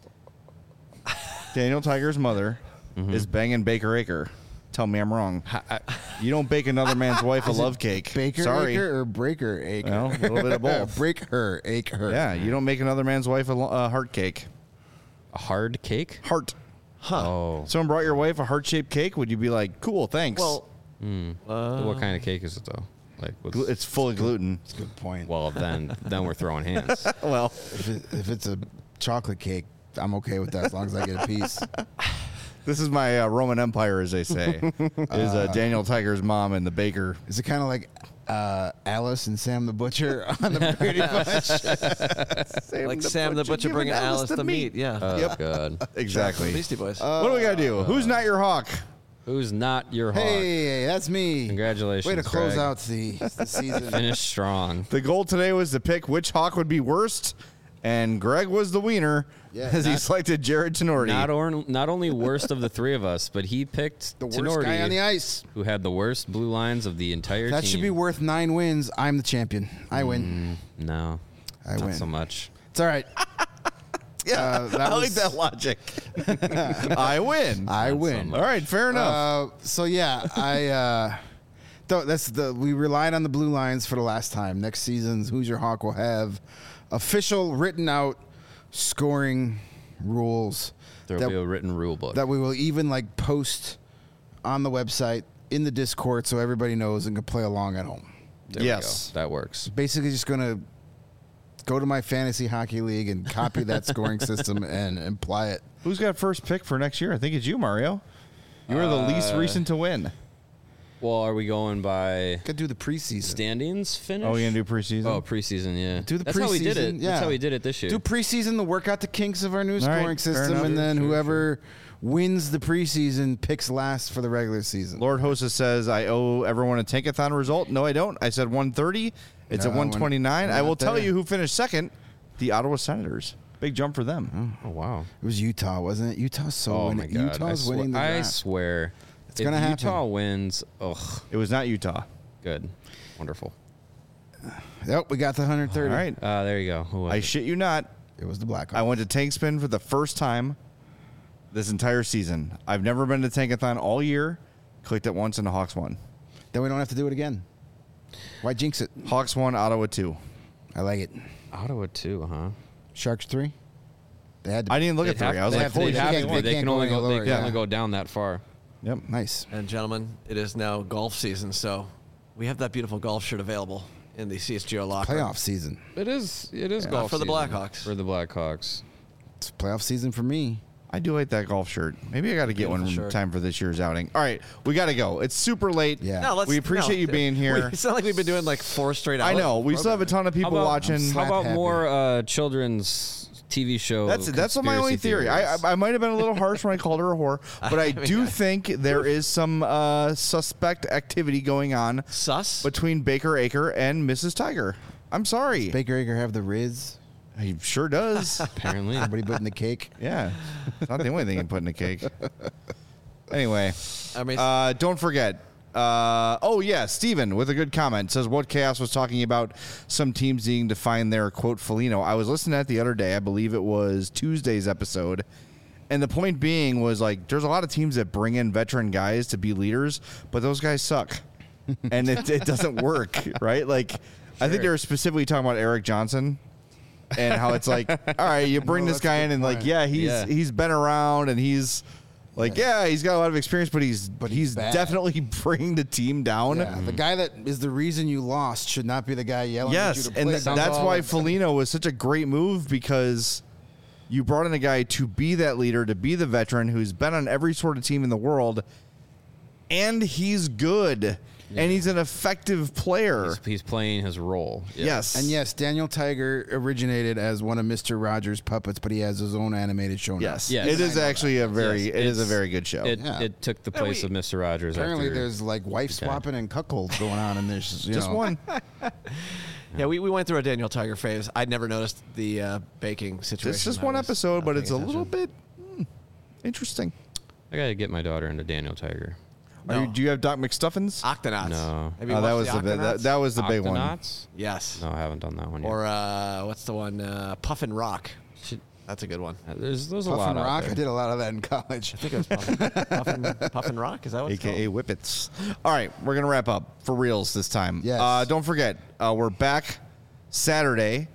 Daniel Tiger's mother is banging Baker Acre. Tell me I'm wrong. You don't bake another man's wife a love cake. Baker Acre or Breaker Acre? Well, a little bit of both. Break her, ache her. Yeah, you don't make another man's wife a heart cake. A hard cake? Heart. Huh. Oh. Someone brought your wife a heart-shaped cake. Would you be like, cool, thanks? Well, what kind of cake is it though? Like it's full of gluten. That's a good point. Well, then we're throwing hands. Well, if it's a chocolate cake, I'm okay with that as long as I get a piece. This is my Roman Empire, as they say. Is Daniel Tiger's mom and the baker. Is it kind of like Alice and Sam the Butcher on the Brady Bunch? like Sam the Butcher bringing Alice the meat. Yeah. Oh, God. Exactly. Beastie Boys. What do we got to do? Who's not your hawk? Who's not your hawk? Hey, that's me. Congratulations. Way to close Greg. out the season. Finish strong. The goal today was to pick which hawk would be worst, and Greg was the wiener as he selected Jared Tenorti. Not only worst of the three of us, but he picked the worst Tenorti, guy on the ice, who had the worst blue lines of the entire that team. should be worth 9 wins. I'm the champion. I win. No, I win. Not so much. It's all right. Yeah, I like that logic. I win. I win. All right, fair enough. So yeah, we relied on the blue lines for the last time. Next season's Who's Your Hawk will have official written out scoring rules. There'll be a written rule book that we will even post on the website in the Discord so everybody knows and can play along at home. There we go. That works. Basically, just gonna go to my fantasy hockey league and copy that scoring system and apply it. Who's got first pick for next year? I think it's you, Mario. You were the least recent to win. Well, are we going by Gotta do the preseason standings finish? Oh, you gonna do preseason? Oh, preseason, yeah. Do the That's preseason. how we did it. Yeah. That's how we did it this year. Do preseason to work out the kinks of our new All scoring right, fair system, enough. and then Sure, whoever wins the preseason picks last for the regular season. Lord Hosa says, I owe everyone a Tankathon result. No, I don't. I said 130. It's at 129. I will tell you who finished second. The Ottawa Senators. Big jump for them. Oh, wow. It was Utah, wasn't it? Utah's My God. Utah's winning the I draft. swear. It's going to happen. Utah wins, It was not Utah. good. Wonderful. Yep, we got the 130. All right. There you go. Who was I it? shit you not. It was the Blackhawks. I went to Tank Spin for the first time this entire season. I've never been to Tankathon all year. Clicked it once and the Hawks won. Then we don't have to do it again. Why jinx it? Hawks won, Ottawa 2. I like it. Ottawa 2, huh? Sharks 3. They had to. I didn't look at 3. I was like, holy They shit. have to. They can only go. They lower, can yeah. only go down that far. Yep. Nice. And gentlemen, it is now golf season, so we have that beautiful golf shirt available in the CSGO locker. Playoff season. It is golf for the season. Blackhawks. For the Blackhawks. It's playoff season for me. I do like that golf shirt. Maybe I got to get one in shirt. time for this year's outing. All right, we got to go. It's super late. Yeah. No, we appreciate you being here. It's not like we've been doing like 4 straight hours. I know. We still have a ton of people watching. How about happy. more children's TV show? That's my only conspiracy theory. theories? I might have been a little harsh when I called her a whore, but I do think there is some suspect activity going on Sus? between Baker Acre and Mrs. Tiger. I'm sorry. Baker Acre have the Riz. He sure does. Apparently. Everybody put in the cake. Yeah. It's not the only thing you put in a cake. Anyway, I mean, don't forget. Steven with a good comment says what Chaos was talking about some teams needing to find their quote Foligno. I was listening to that the other day. I believe it was Tuesday's episode. And the point being was like there's a lot of teams that bring in veteran guys to be leaders, but those guys suck. And it doesn't work, right? Like I think they were specifically talking about Eric Johnson. And how it's like, all right, you bring this guy in and like, he's been around and he's like, he's got a lot of experience, but he's bad. definitely bringing the team down. Yeah, the guy that is the reason you lost should not be the guy yelling at you Yes, to and play. that's why Foligno was such a great move because you brought in a guy to be that leader, to be the veteran who's been on every sort of team in the world, and he's good. And he's an effective player. He's playing his role. Yeah. Yes. And yes, Daniel Tiger originated as one of Mr. Rogers' puppets, but he has his own animated show now. Yes. Yes. It is actually a very Yes, it is a it's- very good show. It took the place of Mr. Rogers. Apparently, after, there's like wife swapping and cuckolds going on, and there's Just one. yeah, we went through a Daniel Tiger phase. I'd never noticed the baking situation. It's just I one was episode, not but paying it's a little attention. bit interesting. I gotta get my daughter into Daniel Tiger. Do you have Doc McStuffins? Octonauts. No. Have you Oh, that was watched the Octonauts? that was the big one. Octonauts? Yes. No, I haven't done that one yet. Or what's the one? Puffin Rock. That's a good one. There's a Puffin lot out Rock. there. I did a lot of that in college. I think it was Puffin Rock. Is that what it's AKA called? Whippets. All right, we're gonna wrap up for reals this time. Yes. Don't forget, we're back Saturday,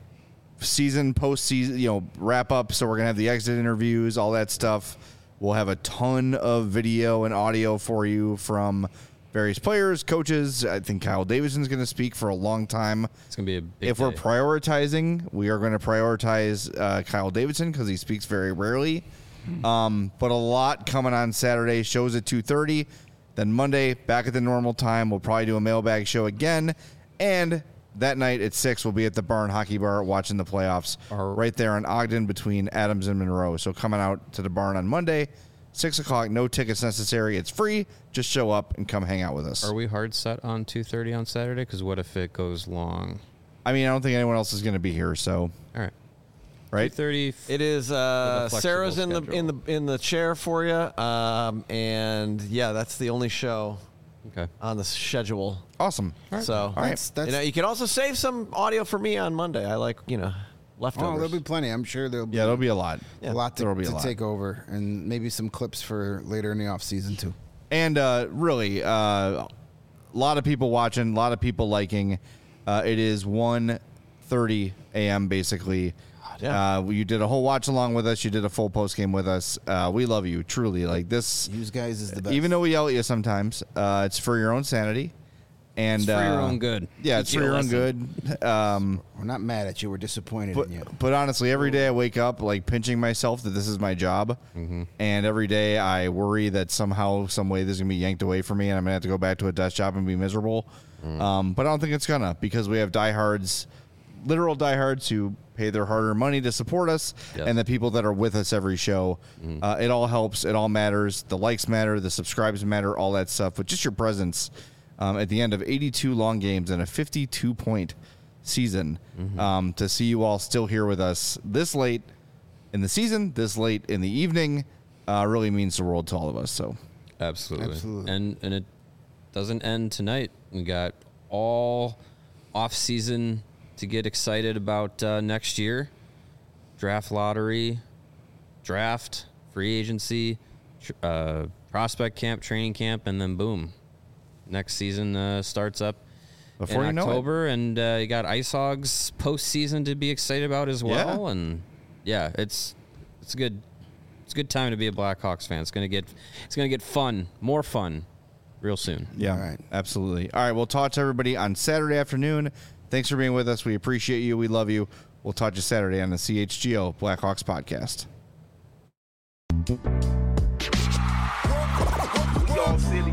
postseason, wrap up. So we're gonna have the exit interviews, all that stuff. We'll have a ton of video and audio for you from various players, coaches. I think Kyle Davidson's going to speak for a long time. It's gonna be a big If we're day. prioritizing, we are going to prioritize Kyle Davidson because he speaks very rarely. But a lot coming on Saturday. Shows at 2:30. Then Monday, back at the normal time. We'll probably do a mailbag show again. And that night at 6, we'll be at the Barn Hockey Bar watching the playoffs right there in Ogden between Adams and Monroe. So coming out to the Barn on Monday, 6 o'clock, no tickets necessary. It's free. Just show up and come hang out with us. Are we hard set on 2:30 on Saturday? Because what if it goes long? I mean, I don't think anyone else is going to be here, so All right. right. 2:30. It is flexible Sarah's in schedule. the chair for you, and yeah, that's the only show Okay. on the schedule. Awesome. So All right. That's you can also save some audio for me on Monday. I like oh, leftovers. there'll be plenty. I'm sure there'll be Yeah, there'll be a lot. a lot There'll be a to lot. take over, and maybe some clips for later in the off season too. And really, a lot of people watching, a lot of people liking. It is 1:30 a.m. basically. yeah. You did a whole watch along with us. You did a full post game with us. We love you truly. Like this, You guys is the best. even though we yell at you sometimes, it's for your own sanity. And It's for your own good. Yeah, Teach it's you for a your own lesson. good. we're not mad at you. We're disappointed But, in you. but honestly, every day I wake up like pinching myself that this is my job, and every day I worry that somehow, some way, this is gonna be yanked away from me, and I'm gonna have to go back to a desk job and be miserable. But I don't think it's gonna, because we have diehards, literal diehards who pay their hard-earned money to support us, Yes. and the people that are with us every show. It all helps. It all matters. The likes matter. The subscribes matter. All that stuff. But just your presence at the end of 82 long games and a 52-point season, to see you all still here with us this late in the season, this late in the evening, really means the world to all of us. So Absolutely. Absolutely. And it doesn't end tonight. We got all off season to get excited about next year. Draft lottery, draft, free agency, prospect camp, training camp, and then boom, next season starts up Before in you October, and you got Ice Hogs postseason to be excited about as well. Yeah. And yeah, it's a good time to be a Blackhawks fan. It's gonna get fun, more fun, real soon. Yeah, All right. absolutely. All right, we'll talk to everybody on Saturday afternoon. Thanks for being with us. We appreciate you. We love you. We'll talk to you Saturday on the CHGO Blackhawks podcast. Dog City.